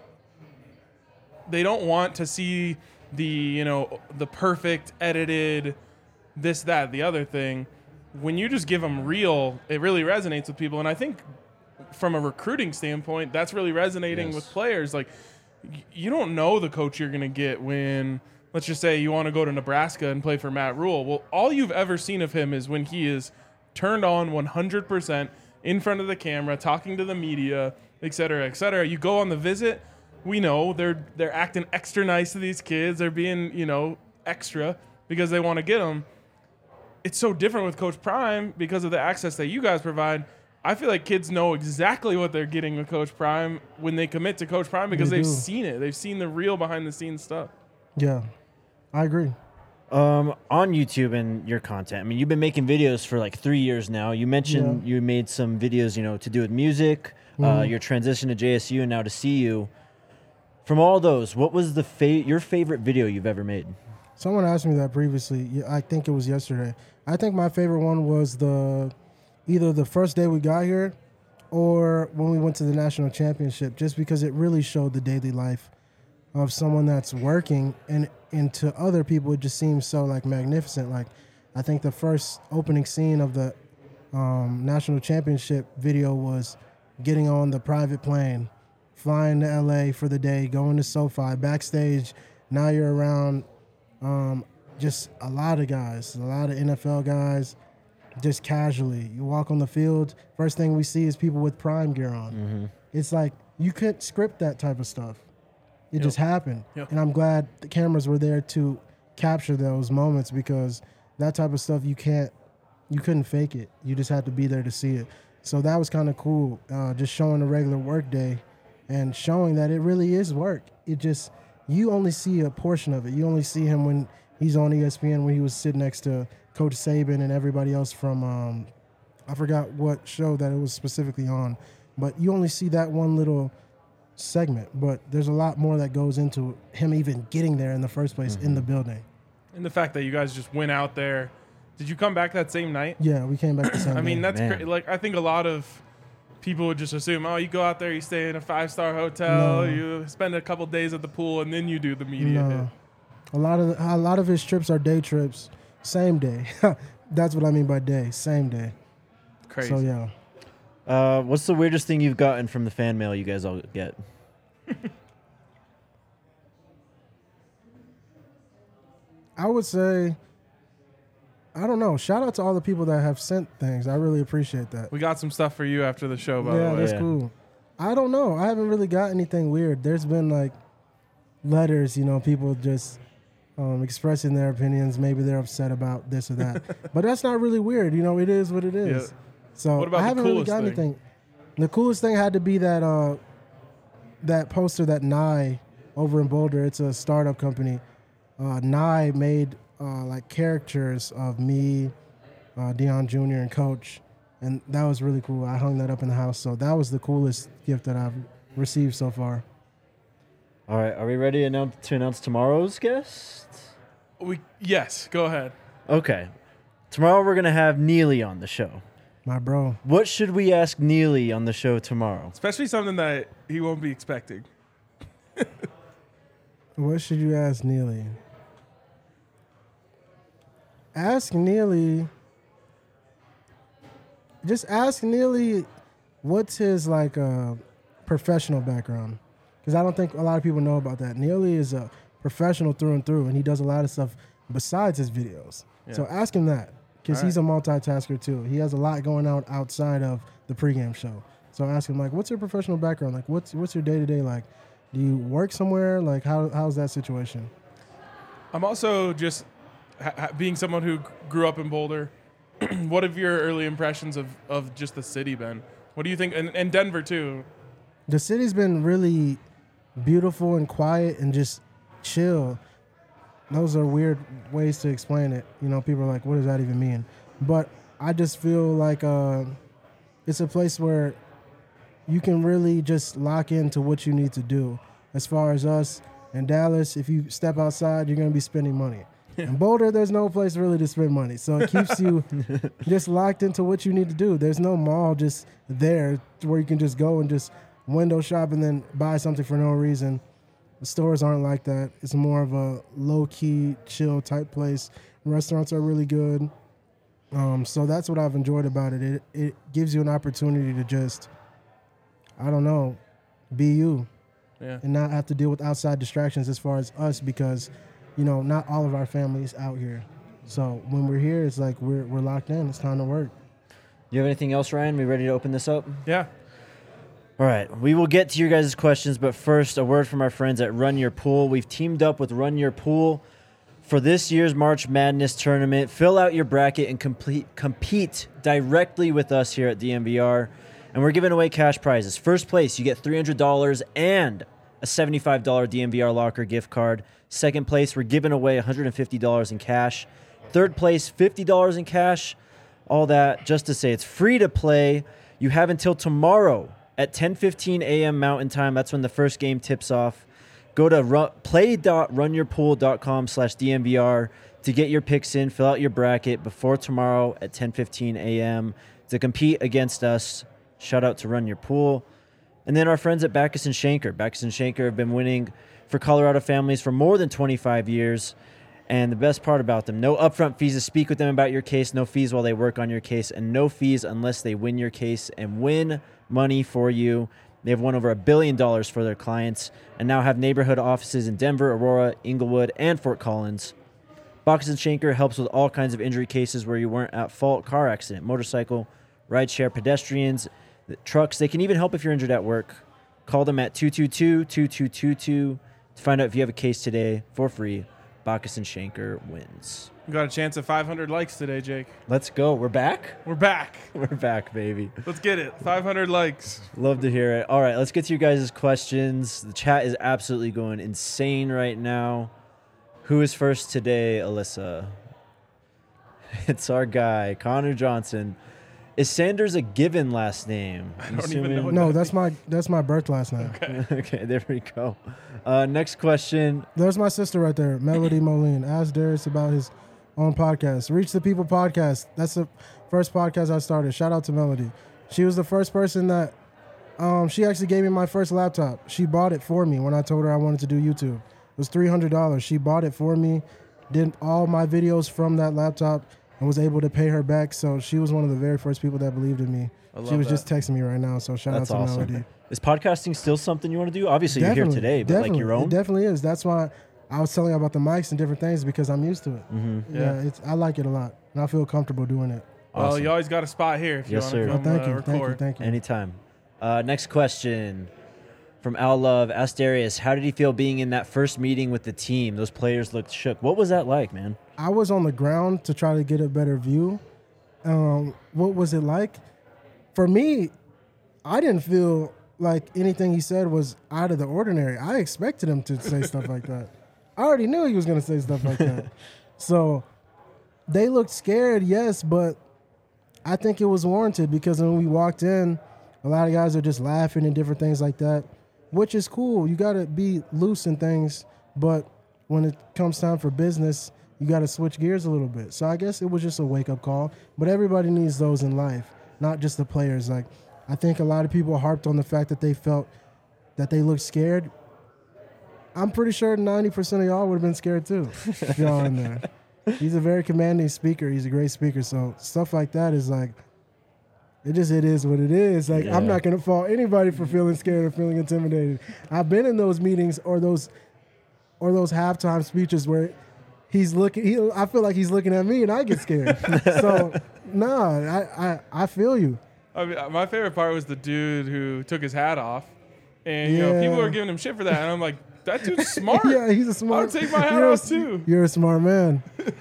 they don't want to see the, you know, the perfect edited this, that, the other thing. When you just give them real, it really resonates with people. And I think from a recruiting standpoint, that's really resonating Yes. with players. Like, y- you don't know the coach you're going to get when, let's just say you want to go to Nebraska and play for Matt Rule. Well, all you've ever seen of him is when he is turned on one hundred percent in front of the camera, talking to the media, et cetera, et cetera. You go on the visit, we know they're they're acting extra nice to these kids. They're being, you know, extra because they want to get them. It's so different with Coach Prime because of the access that you guys provide. I feel like kids know exactly what they're getting with Coach Prime when they commit to Coach Prime because They they've do. seen it. They've seen the real behind-the-scenes stuff. Yeah, I agree. Um, on YouTube and your content, I mean, you've been making videos for like three years now. You mentioned you made some videos, you know, to do with music, uh, your transition to J S U and now to C U. From all those, what was the fa- your favorite video you've ever made? Someone asked me that previously. Yeah, I think it was yesterday. I think my favorite one was the either the first day we got here or when we went to the national championship, just because it really showed the daily life of someone that's working, and and to other people it just seems so like magnificent. Like I think the first opening scene of the um, national championship video was getting on the private plane, flying to L A for the day, going to SoFi, backstage. Now you're around um, just a lot of guys, a lot of N F L guys, just casually. You walk on the field, first thing we see is people with Prime gear on. Mm-hmm. It's like you couldn't script that type of stuff. It Yep. just happened. Yep. And I'm glad the cameras were there to capture those moments because that type of stuff you can't, you couldn't fake it. You just had to be there to see it. So that was kind of cool, uh, just showing a regular work day and showing that it really is work. It just, you only see a portion of it. You only see him when he's on E S P N, when he was sitting next to Coach Saban and everybody else from, um, I forgot what show that it was specifically on, but you only see that one little segment. But there's a lot more that goes into him even getting there in the first place in the building. And the fact that you guys just went out there. Did you come back that same night? Yeah, we came back the same I mean, day. that's Man. cra- like I think a lot of people would just assume, oh, you go out there, you stay in a five-star hotel, No. you spend a couple days at the pool, and then you do the media hit. No. A lot of the, a lot of his trips are day trips, same day. That's what I mean by day, same day. Crazy. So yeah, Uh, what's the weirdest thing you've gotten from the fan mail you guys all get? I would say, I don't know. Shout out to all the people that have sent things. I really appreciate that. We got some stuff for you after the show, by Yeah, the way. that's Yeah. cool. I don't know. I haven't really got anything weird. There's been like letters, you know, people just um, expressing their opinions. Maybe they're upset about this or that, but that's not really weird. You know, it is what it is. Yeah. So What about I the haven't really coolest got thing? anything. The coolest thing had to be that uh, that poster that Nye over in Boulder. It's a startup company. Uh, Nye made uh, like characters of me, uh, Deion Junior and Coach, and that was really cool. I hung that up in the house, so that was the coolest gift that I've received so far. All right, are we ready to announce, to announce tomorrow's guest? We yes, go ahead. Okay. Tomorrow we're going to have Neely on the show. My bro, What should we ask Neely on the show tomorrow? Especially something that he won't be expecting. what should you ask Neely? Ask Neely. Just ask Neely, what's his like uh, professional background? Because I don't think a lot of people know about that. Neely is a professional through and through, and he does a lot of stuff besides his videos. So Yeah. ask him that, because All he's a multitasker too. He has a lot going on outside of the pregame show. So ask him like, what's your professional background? Like, what's what's your day to day like? Do you work somewhere? Like, how how's that situation? I'm also just ha- ha- being someone who g- grew up in Boulder. What have your early impressions of, of just the city been? What do you think? And, and Denver too. the city's been really beautiful and quiet and just chill. Those are weird ways to explain it. You know, people are like, what does that even mean? But I just feel like uh, it's a place where you can really just lock into what you need to do. As far as us in Dallas, if you step outside, you're going to be spending money. In Boulder, there's no place really to spend money. So it keeps you just locked into what you need to do. There's no mall just there where you can just go and just window shop and then buy something for no reason. The stores aren't like that. It's more of a low-key, chill type place. Restaurants are really good. Um, so that's what I've enjoyed about it. It it gives you an opportunity to just, I don't know, be you. Yeah. And not have to deal with outside distractions as far as us because, you know, not all of our families out here. So when we're here, it's like we're we're locked in. It's time to work. You have anything else, Ryan? We ready to open this up? Yeah. All right, we will get to your guys' questions, but first, a word from our friends at Run Your Pool. We've teamed up with Run Your Pool for this year's March Madness tournament. Fill out your bracket and complete, compete directly with us here at D M V R, and we're giving away cash prizes. First place, you get three hundred dollars and a seventy-five dollars D M V R Locker gift card. Second place, we're giving away one hundred fifty dollars in cash. Third place, fifty dollars in cash. All that just to say it's free to play. You have until tomorrow at ten fifteen a.m. Mountain Time. That's when the first game tips off. Go to run, play.runyourpool.com slash DMVR to get your picks in. Fill out your bracket before tomorrow at ten fifteen a.m. to compete against us. Shout out to Run Your Pool. And then our friends at Backus and Shanker. Backus and Shanker have been winning for Colorado families for more than twenty-five years. And the best part about them, no upfront fees to speak with them about your case, no fees while they work on your case, and no fees unless they win your case and win money for you. They've won over a billion dollars for their clients and now have neighborhood offices in Denver, Aurora, Inglewood, and Fort Collins. Backus and Shanker helps with all kinds of injury cases where you weren't at fault, car accident, motorcycle, rideshare, pedestrians, trucks. They can even help if you're injured at work. Call them at two two two, two two two two to find out if you have a case today for free. Backus and Shanker wins. We got a chance at five hundred likes today, Jake. Let's go. We're back? We're back. We're back, baby. Let's get it. five hundred likes. Love to hear it. All right, let's get to you guys' questions. The chat is absolutely going insane right now. Who is first today, Alyssa? It's our guy, Connor Johnson. Is Sanders a given last name? I don't even know what No, that that's my that's my birth last name. Okay. Okay, there we go. Uh, next question. There's my sister right there, Melody Moline. Ask Darius about his own podcast. Reach the People podcast. That's the first podcast I started. Shout out to Melody. She was the first person that, um, she actually gave me my first laptop. She bought it for me when I told her I wanted to do YouTube. It was three hundred dollars. She bought it for me, did all my videos from that laptop, and was able to pay her back. So she was one of the very first people that believed in me. I love She was that. just texting me right now. So shout That's out to awesome. Melody. Is podcasting still something you want to do? Obviously, you're Definitely, here today, but definitely. like your own? It definitely is. That's why I was telling you about the mics and different things because I'm used to it. Mm-hmm. Yeah, Yeah. it's I like it a lot, and I feel comfortable doing it. Well, Awesome. you always got a spot here if you Yes, want sir. to Oh, come thank uh, you, record. thank you, thank you. Anytime. Uh, next question from Al Love. Asked Darius, how did he feel being in that first meeting with the team? Those players looked shook. What was that like, man? I was on the ground to try to get a better view. Um, what was it like? For me, I didn't feel like anything he said was out of the ordinary. I expected him to say stuff like that. I already knew he was going to say stuff like that. So they looked scared, yes, but I think it was warranted because when we walked in, a lot of guys are just laughing and different things like that, which is cool. You got to be loose in things, but when it comes time for business, you got to switch gears a little bit. So I guess it was just a wake-up call, but everybody needs those in life, not just the players. Like, I think a lot of people harped on the fact that they felt that they looked scared. I'm pretty sure ninety percent of y'all would have been scared too if y'all in there. He's a very commanding speaker. He's a great speaker. So stuff like that is like, it just, it is what it is. Like, Yeah. I'm not going to fault anybody for feeling scared or feeling intimidated. I've been in those meetings or those, or those halftime speeches where he's looking, he, I feel like he's looking at me and I get scared. So, nah, I, I, I feel you. I mean, my favorite part was the dude who took his hat off, and you know Yeah. people were giving him shit for that, and I'm like, that dude's smart. Yeah, he's a I smart. would take my hat you're off a, too. You're a smart man.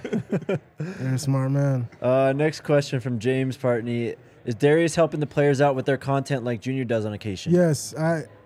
You're a smart man. Uh, next question from James Partney. Is Darius helping the players out with their content like Junior does on occasion? Yes, I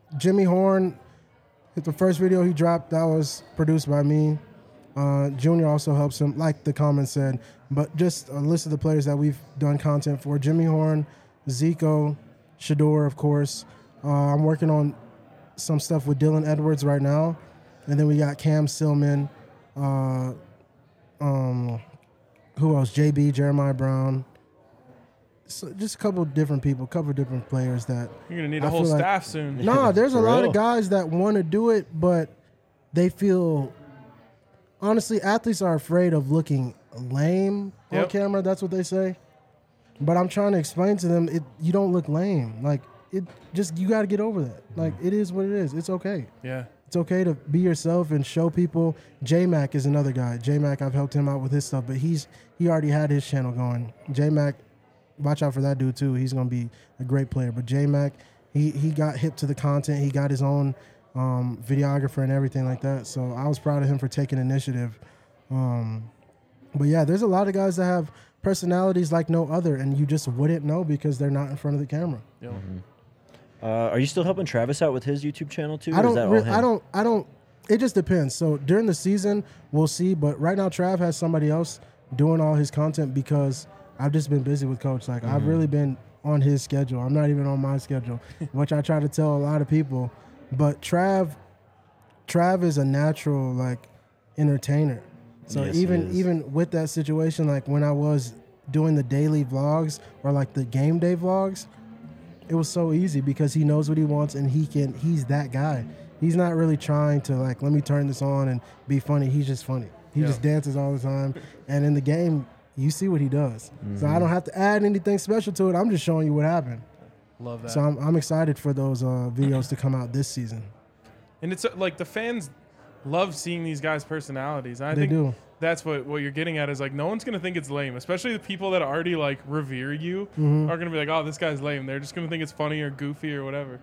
Jimmy Horn, the first video he dropped, that was produced by me. Uh, Junior also helps him, like the comment said. But just a list of the players that we've done content for. Jimmy Horn, Zico, Shador, of course. Uh, I'm working on some stuff with Dylan Edwards right now. And then we got Cam Stillman. Uh, um, who else? J B, Jeremiah Brown. So just a couple of different people, a couple of different players that You're gonna need a I whole feel like- staff soon. Nah, there's a For lot real. of guys that want to do it, but they feel. Honestly, athletes are afraid of looking lame on Yep. camera. That's what they say. But I'm trying to explain to them, it you don't look lame. Like it, just you got to get over that. Like it is what it is. It's okay. Yeah. It's okay to be yourself and show people. J-Mac is another guy. J-Mac, I've helped him out with his stuff, but he's he already had his channel going. J-Mac, watch out for that dude too. He's gonna be a great player. But J-Mac, he he got hip to the content. He got his own um, videographer and everything like that. So I was proud of him for taking initiative. Um, but yeah, there's a lot of guys that have personalities like no other, and you just wouldn't know because they're not in front of the camera. Yo. Uh, are you still helping Travis out with his YouTube channel too? I or is don't. that all Re- him? I don't. I don't. It just depends. So during the season, we'll see. But right now, Trav has somebody else doing all his content because I've just been busy with Coach. Like I've really been on his schedule. I'm not even on my schedule, which I try to tell a lot of people. But Trav, Trav is a natural like entertainer. So Yes, he even is. even with that situation, like when I was doing the daily vlogs or like the game day vlogs, it was so easy because he knows what he wants and he can he's that guy. He's not really trying to like let me turn this on and be funny. He's just funny. He Yeah. just dances all the time. And in the game, you see what he does. So Mm-hmm. I don't have to add anything special to it. I'm just showing you what happened. Love that. So I'm I'm excited for those uh, videos to come out this season. And it's uh, like the fans love seeing these guys' personalities. And I They think do. that's what, what you're getting at is like no one's gonna think it's lame, especially the people that already like revere you Mm-hmm. are gonna be like, oh, this guy's lame. They're just gonna think it's funny or goofy or whatever.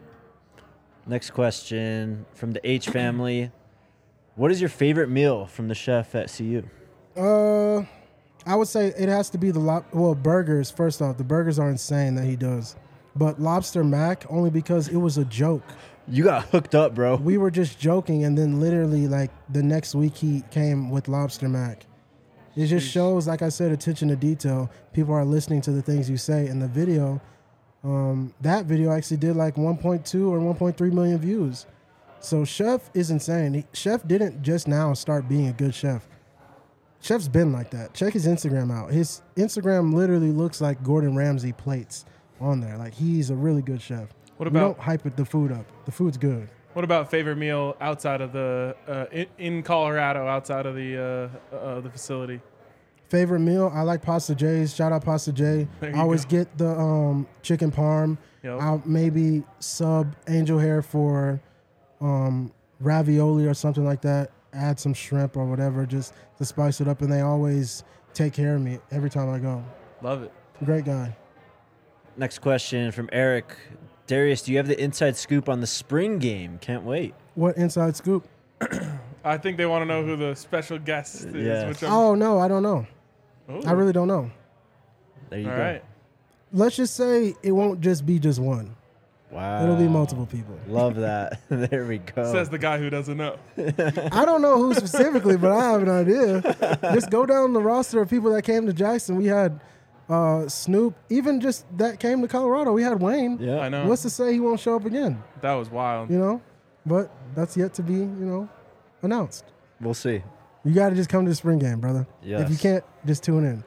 Next question from the H family. What is your favorite meal from the chef at C U? Uh, I would say it has to be the lo- well burgers. First off, the burgers are insane that he does, but lobster mac only because it was a joke. You got hooked up, bro. We were just joking, and then literally like the next week he came with lobster mac. It just Jeez. shows, like I said, attention to detail. People are listening to the things you say in the video. Um, that video actually did like one point two or one point three million views. So Chef is insane. He, chef didn't just now start being a good chef. Chef's been like that. Check his Instagram out. His Instagram literally looks like Gordon Ramsay plates on there. Like he's a really good chef. What we about don't hype it, the food up. The food's good. what about favorite meal outside of the uh, in, in Colorado, outside of the uh, uh, the facility? Favorite meal? I like Pasta J's. Shout out Pasta J. There I you always go. get the um, chicken parm. Yep. I'll maybe sub angel hair for um, ravioli or something like that. Add some shrimp or whatever just to spice it up. And they always take care of me every time I go. Love it. Great guy. Next question from Eric. Darius, do you have the inside scoop on the spring game? Can't wait. What inside scoop? I think they want to know who the special guest is. Yeah. Which I'm, Oh, no, I don't know. Ooh. I really don't know. There you All go. right. Let's just say it won't just be just one. Wow. It'll be multiple people. Love that. There we go. Says the guy who doesn't know. I don't know who specifically, but I have an idea. Just go down the roster of people that came to Jackson. We had uh, Snoop. Even just that came to Colorado. We had Wayne. yeah. I know. What's to say he won't show up again? That was wild. You know? But that's yet to be, you know, announced. We'll see. You got to just come to the spring game, brother. If you Yes. can't, just tune in.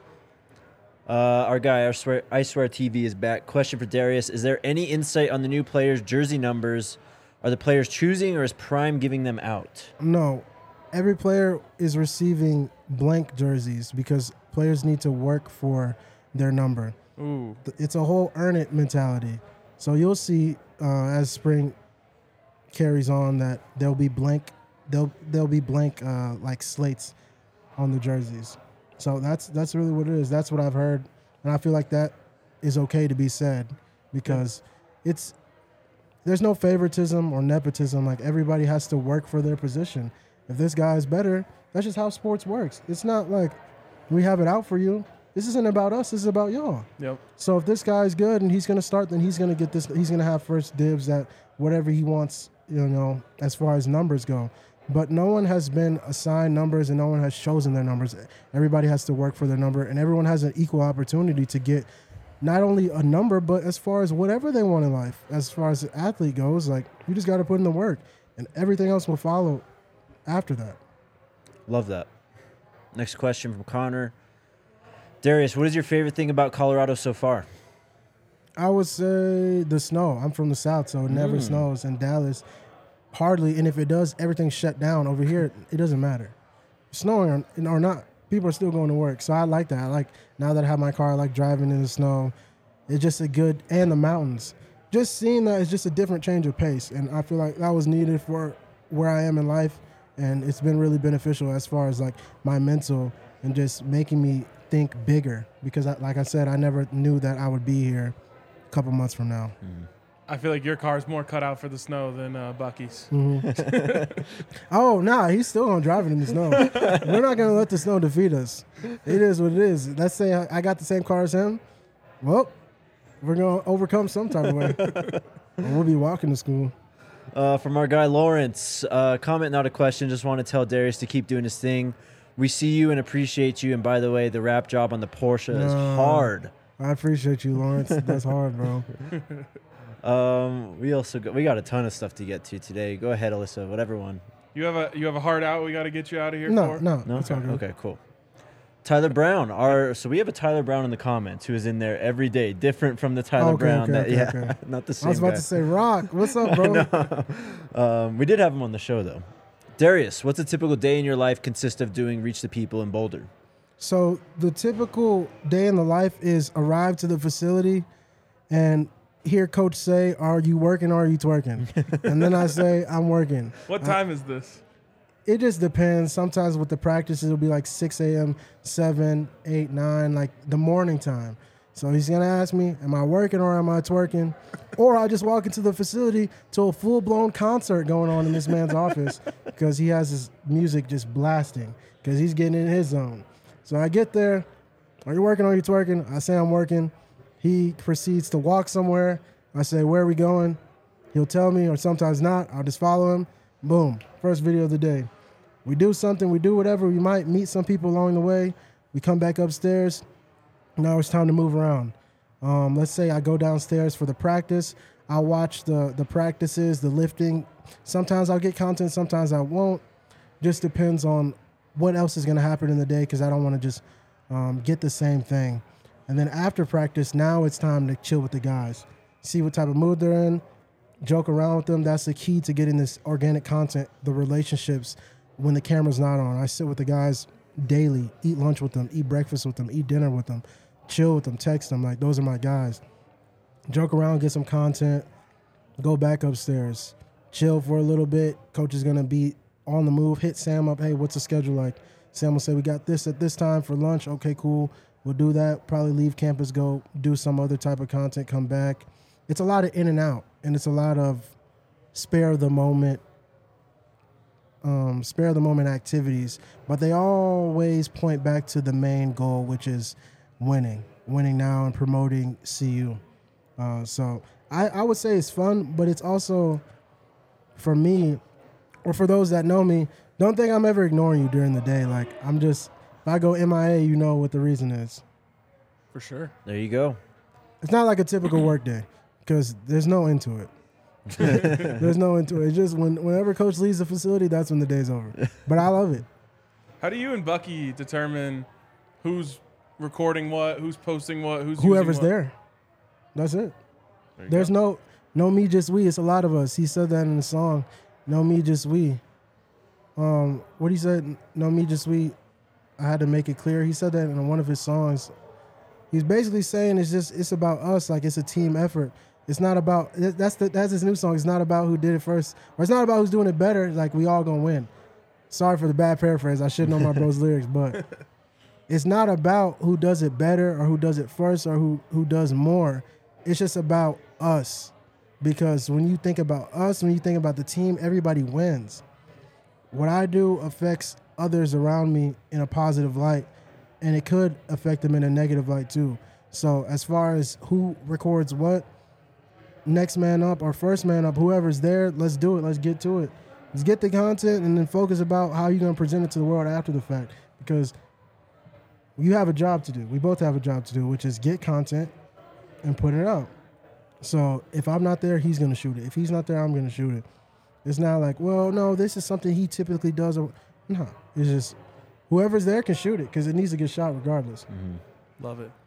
Uh, our guy, I swear, I swear T V is back. Question for Darius. Is there any insight on the new players' jersey numbers? Are the players choosing or is Prime giving them out? No, every player is receiving blank jerseys because players need to work for their number. Ooh. It's a whole earn it mentality. So you'll see uh, as spring carries on that there'll be blank, there'll there'll be blank uh, like slates on the jerseys. So that's that's really what it is. That's what I've heard, and I feel like that is okay to be said because it's there's no favoritism or nepotism. Like everybody has to work for their position. If this guy is better, that's just how sports works. It's not like we have it out for you. this isn't about us. This is about y'all. Yep. So if this guy's good and he's going to start, then he's going to get this. He's going to have first dibs at whatever he wants, you know, as far as numbers go. But no one has been assigned numbers and no one has chosen their numbers. Everybody has to work for their number, and everyone has an equal opportunity to get not only a number, but as far as whatever they want in life. As far as the athlete goes, like, you just got to put in the work, and everything else will follow after that. Love that. Next question from Connor. Darius, what is your favorite thing about Colorado so far? I would say the snow. I'm from the South, so it never Mm. snows. In Dallas, hardly. And if it does, everything's shut down. Over here, it doesn't matter. Snowing or, or not, people are still going to work. So I like that. I like, now that I have my car, I like driving in the snow. It's just a good, and the mountains. Just seeing that is just a different change of pace. And I feel like that was needed for where I am in life. And it's been really beneficial as far as like my mental and just making me think bigger. Because I, like I said, I never knew that I would be here a couple months from now. Mm. I feel like your car's more cut out for the snow than uh, Bucky's. Mm-hmm. Oh, nah, he's still gonna drive it in the snow. We're not gonna let the snow defeat us. It is what it is. Let's say I, I got the same car as him. Well, we're gonna overcome some type of way. Or we'll be walking to school. Uh, from our guy Lawrence, uh, comment, not a question. Just want to tell Darius to keep doing his thing. We see you and appreciate you. And by the way, the wrap job on the Porsche is No. hard. I appreciate you, Lawrence. That's hard, bro. Um, we also got, we got a ton of stuff to get to today. Go ahead, Alyssa. Whatever one. You have a you have a hard out. We got to get you out of here. No, for? no, No. it's all good. Okay. Cool. Tyler Brown. Our so we have a Tyler Brown in the comments who is in there every day, different from the Tyler Okay, Brown. okay, that okay, yeah, okay. not the same I was about guy. to say, Rock, what's up, bro? Um, we did have him on the show though. Darius, what's a typical day in your life consist of doing Reach the People in Boulder? So the typical day in the life is arrive to the facility and hear coach say, "Are you working or are you twerking?" And then I say, "I'm working." What time is this? It just depends. Sometimes with the practice, it'll be like six a.m., seven, eight, nine, like the morning time. So he's going to ask me, am I working or am I twerking? Or I just walk into the facility to a full-blown concert going on in this man's office because he has his music just blasting because he's getting in his zone. So I get there. Are you working or are you twerking? I say I'm working. He proceeds to walk somewhere. I say, where are we going? He'll tell me, or sometimes not. I'll just follow him. Boom. First video of the day. We do something. We do whatever. We might meet some people along the way. We come back upstairs. Now it's time to move around. Um, let's say I go downstairs for the practice. I'll watch the, the practices, the lifting. Sometimes I'll get content. Sometimes I won't. Just depends on what else is going to happen in the day because I don't want to just um, get the same thing. And then after practice, now it's time to chill with the guys. See what type of mood they're in. Joke around with them. That's the key to getting this organic content, the relationships when the camera's not on. I sit with the guys daily, eat lunch with them, eat breakfast with them, eat dinner with them, chill with them, text them. Like, those are my guys. Joke around, get some content, go back upstairs, chill for a little bit. Coach is going to be on the move. Hit Sam up. Hey, what's the schedule like? Sam will say, we got this at this time for lunch. Okay, cool. We'll do that. Probably leave campus, go do some other type of content, come back. It's a lot of in and out, and it's a lot of spare the moment, um, spare the moment activities. But they always point back to the main goal, which is winning, winning now and promoting C U. Uh, so I, I would say it's fun, but it's also, for me, or for those that know me, don't think I'm ever ignoring you during the day. Like, I'm just, if I go M I A, you know what the reason is. For sure. There you go. It's not like a typical work day because there's no end to it. There's no end to it. It's just when, whenever coach leaves the facility, that's when the day's over. But I love it. How do you and Bucky determine who's recording what, who's posting what, who's Whoever's using what? there. That's it. There you There's go. no, no me, just we. It's a lot of us. He said that in the song. No me, just we. Um, what he said, no me, just we. I had to make it clear. He said that in one of his songs. He's basically saying it's just it's about us. Like, it's a team effort. It's not about that's the, that's his new song. It's not about who did it first, or it's not about who's doing it better. Like, we all gonna win. Sorry for the bad paraphrase. I should know my bro's lyrics, but it's not about who does it better or who does it first or who who does more. It's just about us, because when you think about us, when you think about the team, everybody wins. What I do affects others around me in a positive light, and it could affect them in a negative light too. So as far as who records what, next man up or first man up, whoever's there, let's do it. Let's get to it. Let's get the content and then focus about how you're going to present it to the world after the fact, because you have a job to do. We both have a job to do, which is get content and put it out. So if I'm not there, he's going to shoot it. If he's not there, I'm going to shoot it. It's not like, well, no, this is something he typically does. Or, no, it's just whoever's there can shoot it because it needs to get shot regardless. Mm-hmm. Love it.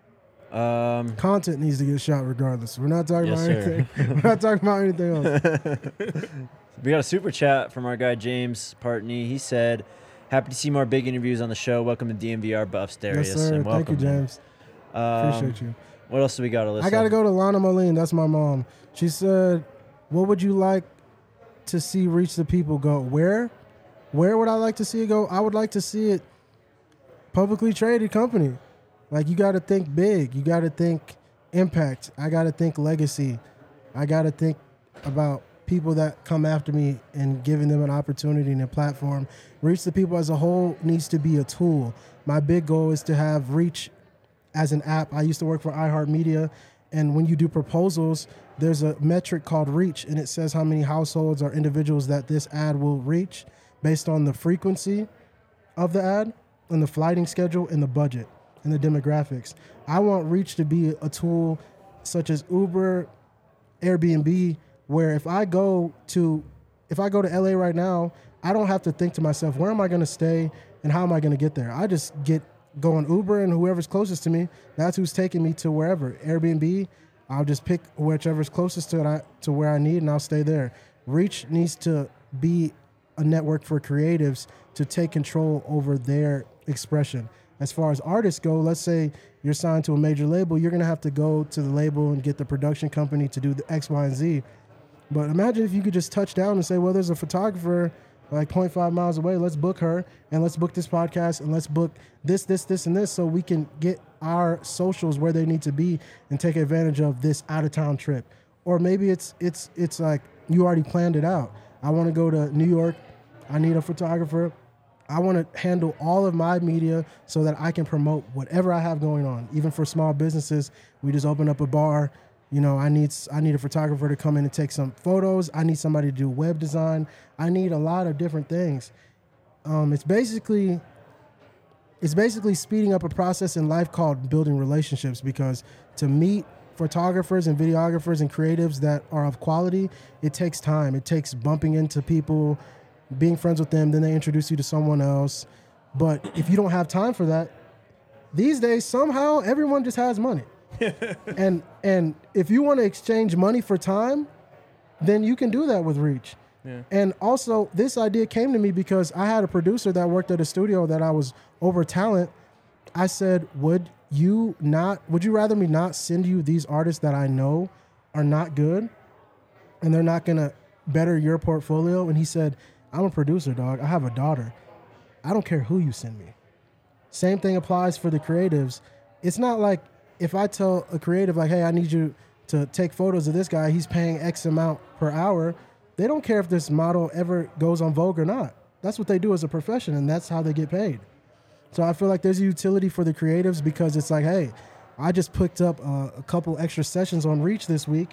Um, Content needs to get shot regardless. We're not talking Yes, about sir. anything. We're not talking about anything else. we got a super chat from our guy James Partney. He said, "Happy to see more big interviews on the show. Welcome to D M V R Buffs, Darius." Yes, sir. And Thank welcome, you, man. James. Um, Appreciate you. What else do we got, Alyssa? I got to go to Lana Moline. That's my mom. She said, what would you like to see Reach the People go? Where? Where would I like to see it go? I would like to see it publicly traded company. Like, you got to think big. You got to think impact. I got to think legacy. I got to think about people that come after me and giving them an opportunity and a platform. Reach the People as a whole needs to be a tool. My big goal is to have Reach as an app. I used to work for iHeartMedia, and when you do proposals, there's a metric called reach, and it says how many households or individuals that this ad will reach based on the frequency of the ad and the flighting schedule and the budget and the demographics. I want Reach to be a tool such as Uber, Airbnb, where if I go to if I go to L A right now, I don't have to think to myself, where am I going to stay and how am I going to get there? I just get go on Uber, and whoever's closest to me, that's who's taking me to wherever. Airbnb, I'll just pick whichever's closest to it, I, to where I need, and I'll stay there. Reach needs to be a network for creatives to take control over their expression. As far as artists go, let's say you're signed to a major label, you're going to have to go to the label and get the production company to do the X, Y, and Z. But imagine if you could just touch down and say, well, there's a photographer like zero point five miles away, let's book her, and let's book this podcast, and let's book this, this, this, and this, so we can get our socials where they need to be and take advantage of this out-of-town trip. Or maybe it's it's it's like you already planned it out. I want to go to New York. I need a photographer. I want to handle all of my media so that I can promote whatever I have going on. Even for small businesses, we just open up a bar. You know, I need I need a photographer to come in and take some photos. I need somebody to do web design. I need a lot of different things. Um, it's basically it's basically speeding up a process in life called building relationships, because to meet photographers and videographers and creatives that are of quality, it takes time. It takes bumping into people, being friends with them, then they introduce you to someone else. But if you don't have time for that, these days somehow everyone just has money. and and if you want to exchange money for time, then you can do that with Reach. Yeah. And also, this idea came to me because I had a producer that worked at a studio that I was over talent. I said, would you not, would you rather me not send you these artists that I know are not good and they're not going to better your portfolio? And he said, I'm a producer, dog. I have a daughter. I don't care who you send me. Same thing applies for the creatives. It's not like if I tell a creative, like, hey, I need you to take photos of this guy, he's paying X amount per hour. They don't care if this model ever goes on Vogue or not. That's what they do as a profession, and that's how they get paid. So I feel like there's a utility for the creatives because it's like, hey, I just picked up a, a couple extra sessions on Reach this week.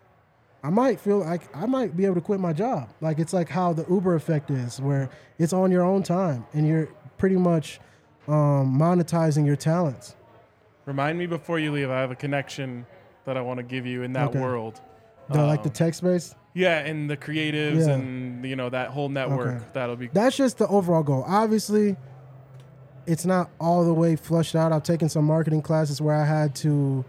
I might feel like I might be able to quit my job. Like, it's like how the Uber effect is, where it's on your own time and you're pretty much um, monetizing your talents. Remind me before you leave, I have a connection that I want to give you in that Okay. world. The, like the Um, tech space. Yeah, and the creatives Yeah. and, you know, that whole network. Okay. That'll be That's just the overall goal. Obviously, it's not all the way flushed out. I've taken some marketing classes where I had to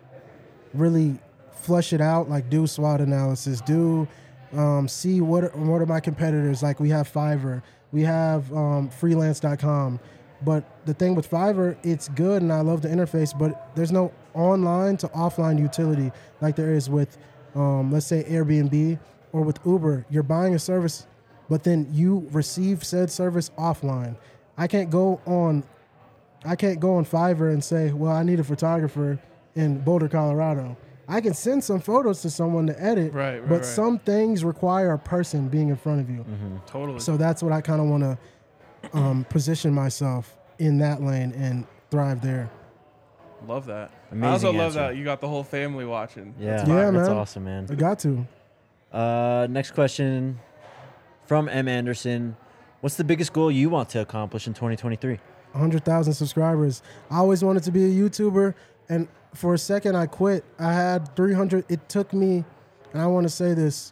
really flush it out, like do SWOT analysis, do um, see what are, what are my competitors. Like we have Fiverr, we have um, freelance dot com. But the thing with Fiverr, it's good and I love the interface, but there's no online to offline utility like there is with, um, let's say, Airbnb or with Uber. You're buying a service, but then you receive said service offline. I can't go on, I can't go on Fiverr and say, well, I need a photographer in Boulder, Colorado. I can send some photos to someone to edit, Right, right, but right. some things require a person being in front of you. totally. So that's what I kind of want to um, position myself in that lane and thrive there. Love that. Amazing I also love answer. that you got the whole family watching. Yeah, That's Yeah, fire. that's man. awesome, man. I got to. Uh, next question from M. Anderson. What's the biggest goal you want to accomplish in twenty twenty-three? one hundred thousand subscribers. I always wanted to be a YouTuber, and for a second I quit. I had three hundred. It took me, and I want to say this,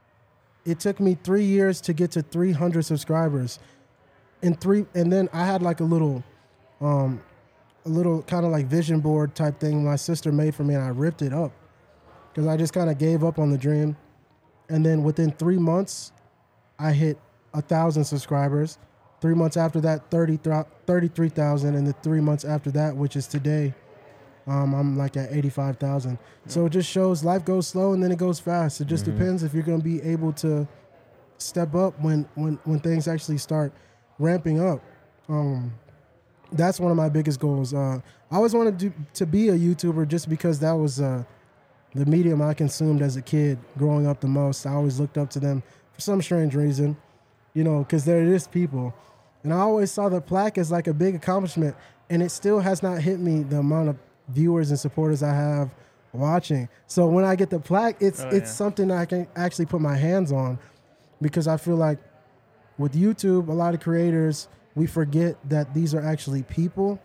it took me three years to get to three hundred subscribers. In three, and then I had like a little, um, a little kind of like vision board type thing my sister made for me, and I ripped it up because I just kind of gave up on the dream. And then within three months, I hit a thousand subscribers. Three months after that, thirty-three thousand, and the three months after that, which is today, um, I'm like at eighty-five thousand. So it just shows life goes slow and then it goes fast. It just Mhm. depends if you're going to be able to step up when, when, when things actually start ramping up. Um, that's one of my biggest goals. Uh, I always wanted to, to be a YouTuber just because that was uh, the medium I consumed as a kid growing up the most. I always looked up to them for some strange reason, you know, because they're just people. And I always saw the plaque as like a big accomplishment, and it still has not hit me the amount of viewers and supporters I have watching. So when I get the plaque, it's Oh, it's yeah. something I can actually put my hands on, because I feel like with YouTube, a lot of creators, we forget that these are actually people,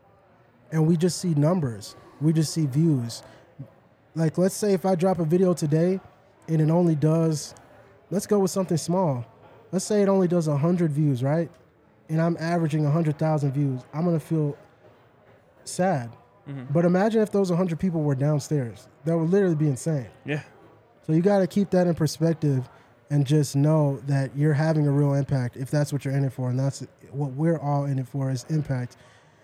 and we just see numbers. We just see views. Like, let's say if I drop a video today and it only does, let's go with something small. Let's say it only does one hundred views, right? And I'm averaging one hundred thousand views. I'm going to feel sad. Mhm. But imagine if those one hundred people were downstairs. That would literally be insane. Yeah. So you got to keep that in perspective and just know that you're having a real impact if that's what you're in it for. And that's what we're all in it for, is impact.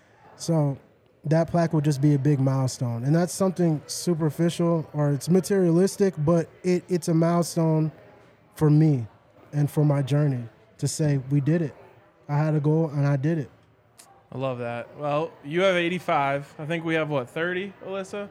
So that plaque will just be a big milestone. And that's something superficial, or it's materialistic, but it, it's a milestone for me and for my journey to say we did it. I had a goal and I did it. I love that. Well, you have eighty-five. I think we have, what, thirty, Alyssa?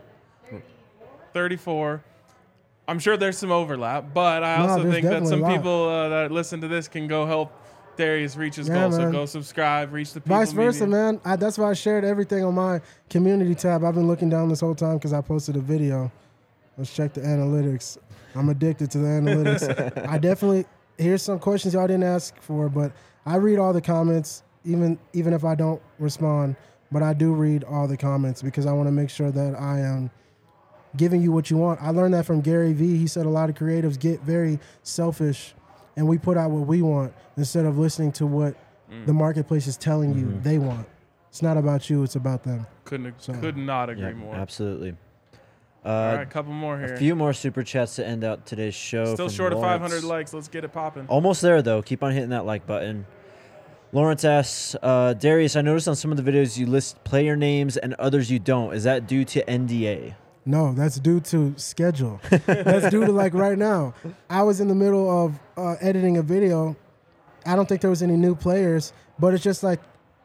thirty-four. I'm sure there's some overlap, but I No, also there's think that definitely some a lot. people uh, that listen to this can go help Darius reach his Yeah, goal. So man. go subscribe, reach the people. Vice versa, media. man. I, that's why I shared everything on my community tab. I've been looking down this whole time because I posted a video. Let's check the analytics. I'm addicted to the analytics. I definitely, here's some questions y'all didn't ask for, but I read all the comments, even even if I don't respond. But I do read all the comments because I want to make sure that I am giving you what you want. I learned that from Gary Vee. He said a lot of creatives get very selfish, and we put out what we want instead of listening to what the marketplace is telling you they want. It's not about you, it's about them. Couldn't So- could not agree Yeah, more. absolutely. Uh, All right, couple more here. A few more super chats to end out today's show. Still from short of five Lawrence. hundred likes. Let's get it popping. Almost there, though. Keep on hitting that like button. Lawrence asks, uh, Darius, I noticed on some of the videos you list player names and others you don't. Is that due to N D A? No, that's due to schedule. That's due to like right now. I was in the middle of uh, editing a video. I don't think there was any new players, but it's just like,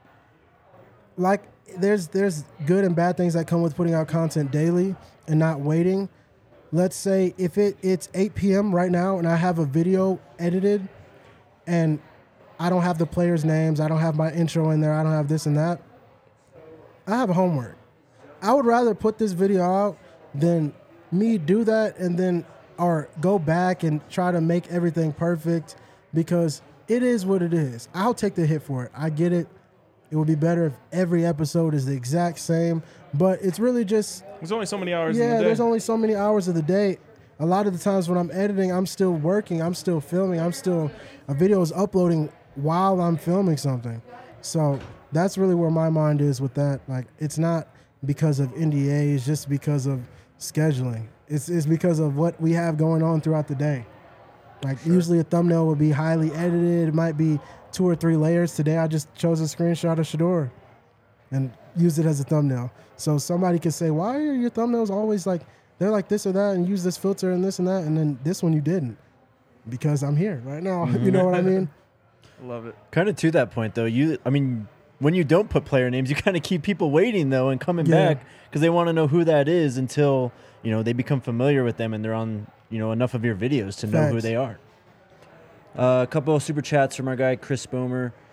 like there's there's good and bad things that come with putting out content daily and not waiting. Let's say if it it's eight p.m. right now and I have a video edited and I don't have the players' names, I don't have my intro in there, I don't have this and that, I have homework. I would rather put this video out than me do that and then or go back and try to make everything perfect, because it is what it is. I'll take the hit for it. I get it. It would be better if every episode is the exact same, but it's really just, There's only so many hours in yeah, the day. there's only so many hours of the day. A lot of the times when I'm editing, I'm still working, I'm still filming, I'm still, a video is uploading while I'm filming something. So that's really where my mind is with that. Like, it's not because of N D A, it's just because of scheduling. It's, it's because of what we have going on throughout the day. Like, usually a thumbnail would be highly edited. It might be two or three layers. Today I just chose a screenshot of Shador and used it as a thumbnail. So somebody could say, why are your thumbnails always like, they're like this or that and use this filter and this and that, and then this one you didn't? Because I'm here right now. You know what I mean? Love it. Kind of to that point, though, you, I mean, when you don't put player names, you kind of keep people waiting, though, and coming Yeah. back because they want to know who that is until, you know, they become familiar with them and they're on, you know, enough of your videos to know who Facts. they are. Uh, a couple of super chats from our guy, Chris Boomer.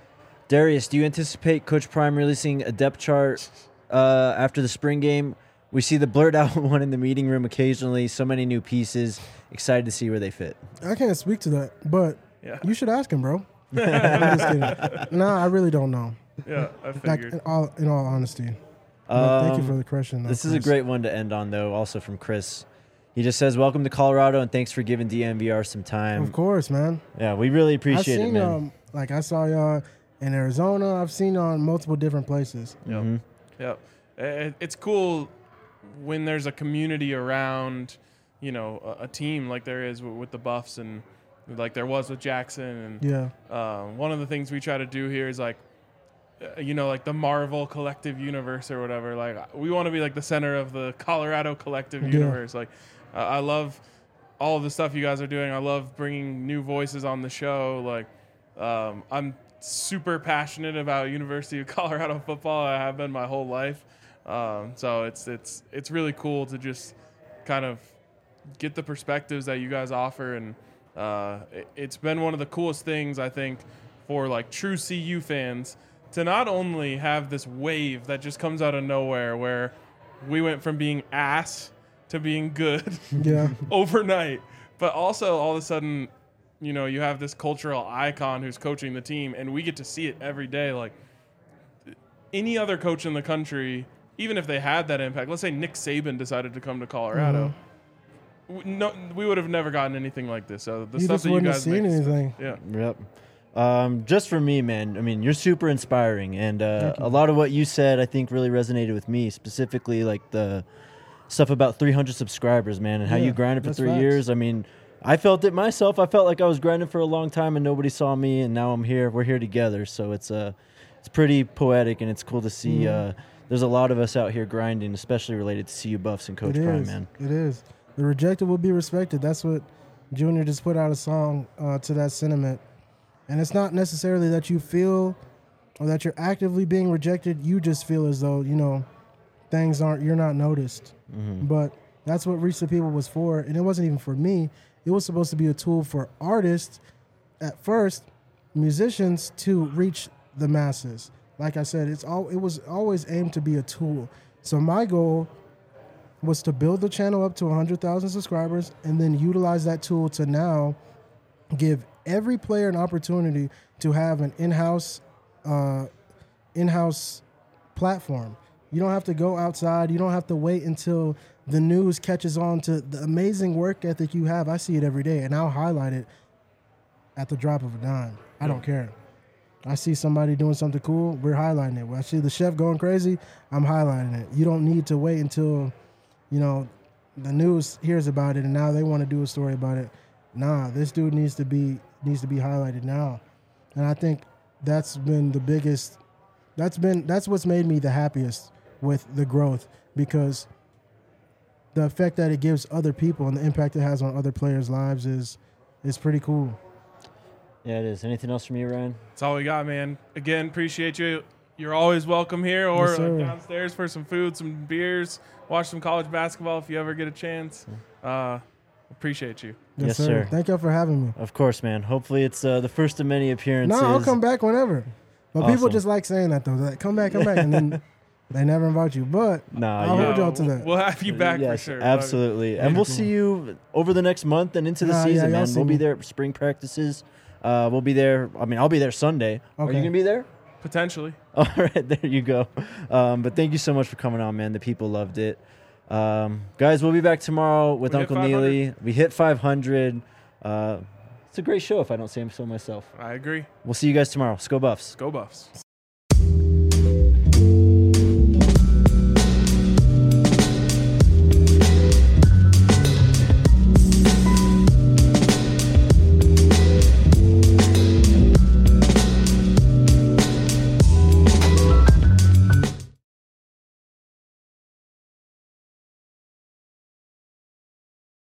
Darius, do you anticipate Coach Prime releasing a depth chart uh, after the spring game? We see the blurred out one in the meeting room occasionally. So many new pieces. Excited to see where they fit. I can't speak to that, but Yeah. you should ask him, bro. I'm just kidding. No, I really don't know. Yeah, I Like, figured. in all, in all honesty. But thank you Um, for the question. though, This is a Chris. great one to end on, though, also from Chris. He just says, welcome to Colorado, and thanks for giving D M V R some time. Of course, man. Yeah, we really appreciate I've it, seen, man. um, like, I saw y'all in Arizona. I've seen y'all in multiple different places. Yep. Mhm. Yep. It- It's cool when there's a community around, you know, a, a team like there is with, with the Buffs and like there was with Jackson. And Yeah. um, one of the things we try to do here is like, uh, you know, like the Marvel collective universe or whatever. Like we want to be like the center of the Colorado collective Yeah. universe. Like uh, I love all of the stuff you guys are doing. I love bringing new voices on the show. Like um, I'm super passionate about University of Colorado football. I have been my whole life. Um, so it's it's it's really cool to just kind of get the perspectives that you guys offer, and uh, it, it's been one of the coolest things I think for like true C U fans to not only have this wave that just comes out of nowhere where we went from being ass to being good Yeah. overnight, but also all of a sudden, you know, you have this cultural icon who's coaching the team, and we get to see it every day. Like any other coach in the country, even if they had that impact, let's say Nick Saban decided to come to Colorado, w no, we would have never gotten anything like this. So the You stuff just that you wouldn't have guys seen make, is- anything. yeah, Yep. Um, just for me, man, I mean, you're super inspiring. And uh, a lot of what you said, I think, really resonated with me, specifically like the stuff about three hundred subscribers, man, and how Yeah, you grinded for that's three facts. years. I mean, I felt it myself. I felt like I was grinding for a long time and nobody saw me, and now I'm here. We're here together. So it's uh, it's pretty poetic, and it's cool to see. Mhm. Uh, there's a lot of us out here grinding, especially related to C U Buffs and Coach It Prime, is. man. It is. The rejected will be respected. That's what Junior just put out a song uh, to that sentiment. And it's not necessarily that you feel or that you're actively being rejected. You just feel as though, you know, things aren't, you're not noticed. Mhm. But that's what Reach the People was for. And it wasn't even for me. It was supposed to be a tool for artists at first, musicians to reach the masses. Like I said, it's all it was always aimed to be a tool. So my goal was to build the channel up to one hundred thousand subscribers and then utilize that tool to now give every player an opportunity to have an in-house uh, in-house platform. You don't have to go outside. You don't have to wait until the news catches on to the amazing work ethic you have. I see it every day, and I'll highlight it at the drop of a dime. I don't care. I see somebody doing something cool, we're highlighting it. When I see the chef going crazy, I'm highlighting it. You don't need to wait until, you know, the news hears about it and now they want to do a story about it. Nah, this dude needs to be needs to be highlighted now. And I think that's been the biggest that's been that's what's made me the happiest with the growth, because the effect that it gives other people and the impact it has on other players' lives is is pretty cool. Yeah, it is. Anything else from you, Ryan? that's all we got, man. Again, appreciate you. You're always welcome here or Yes, uh, sir. downstairs for some food, some beers, watch some college basketball if you ever get a chance. Uh, appreciate you. Yes, sir. Thank y'all for having me. Of course, man. Hopefully it's uh, the first of many appearances. No, I'll come back whenever. But people Awesome. just like saying that though. They're like, come back, come back, and then they never invite you. But Nah, I'll yeah. hold y'all to we'll- that. We'll have you back yes, for sure. absolutely. And we'll see you over the next month and into the Nah, yeah, season, y'all man. see We'll be me. there at spring practices. Uh, we'll be there. I mean, I'll be there Sunday. Are you Okay. gonna be there? Potentially. All right, there you go. Um, but thank you so much for coming on, man. The people loved it. Um, guys, we'll be back tomorrow with We hit Uncle five hundred. Neely. We hit five hundred. Uh, it's a great show if I don't say so myself. I agree. We'll see you guys tomorrow. Go Buffs. Go Buffs.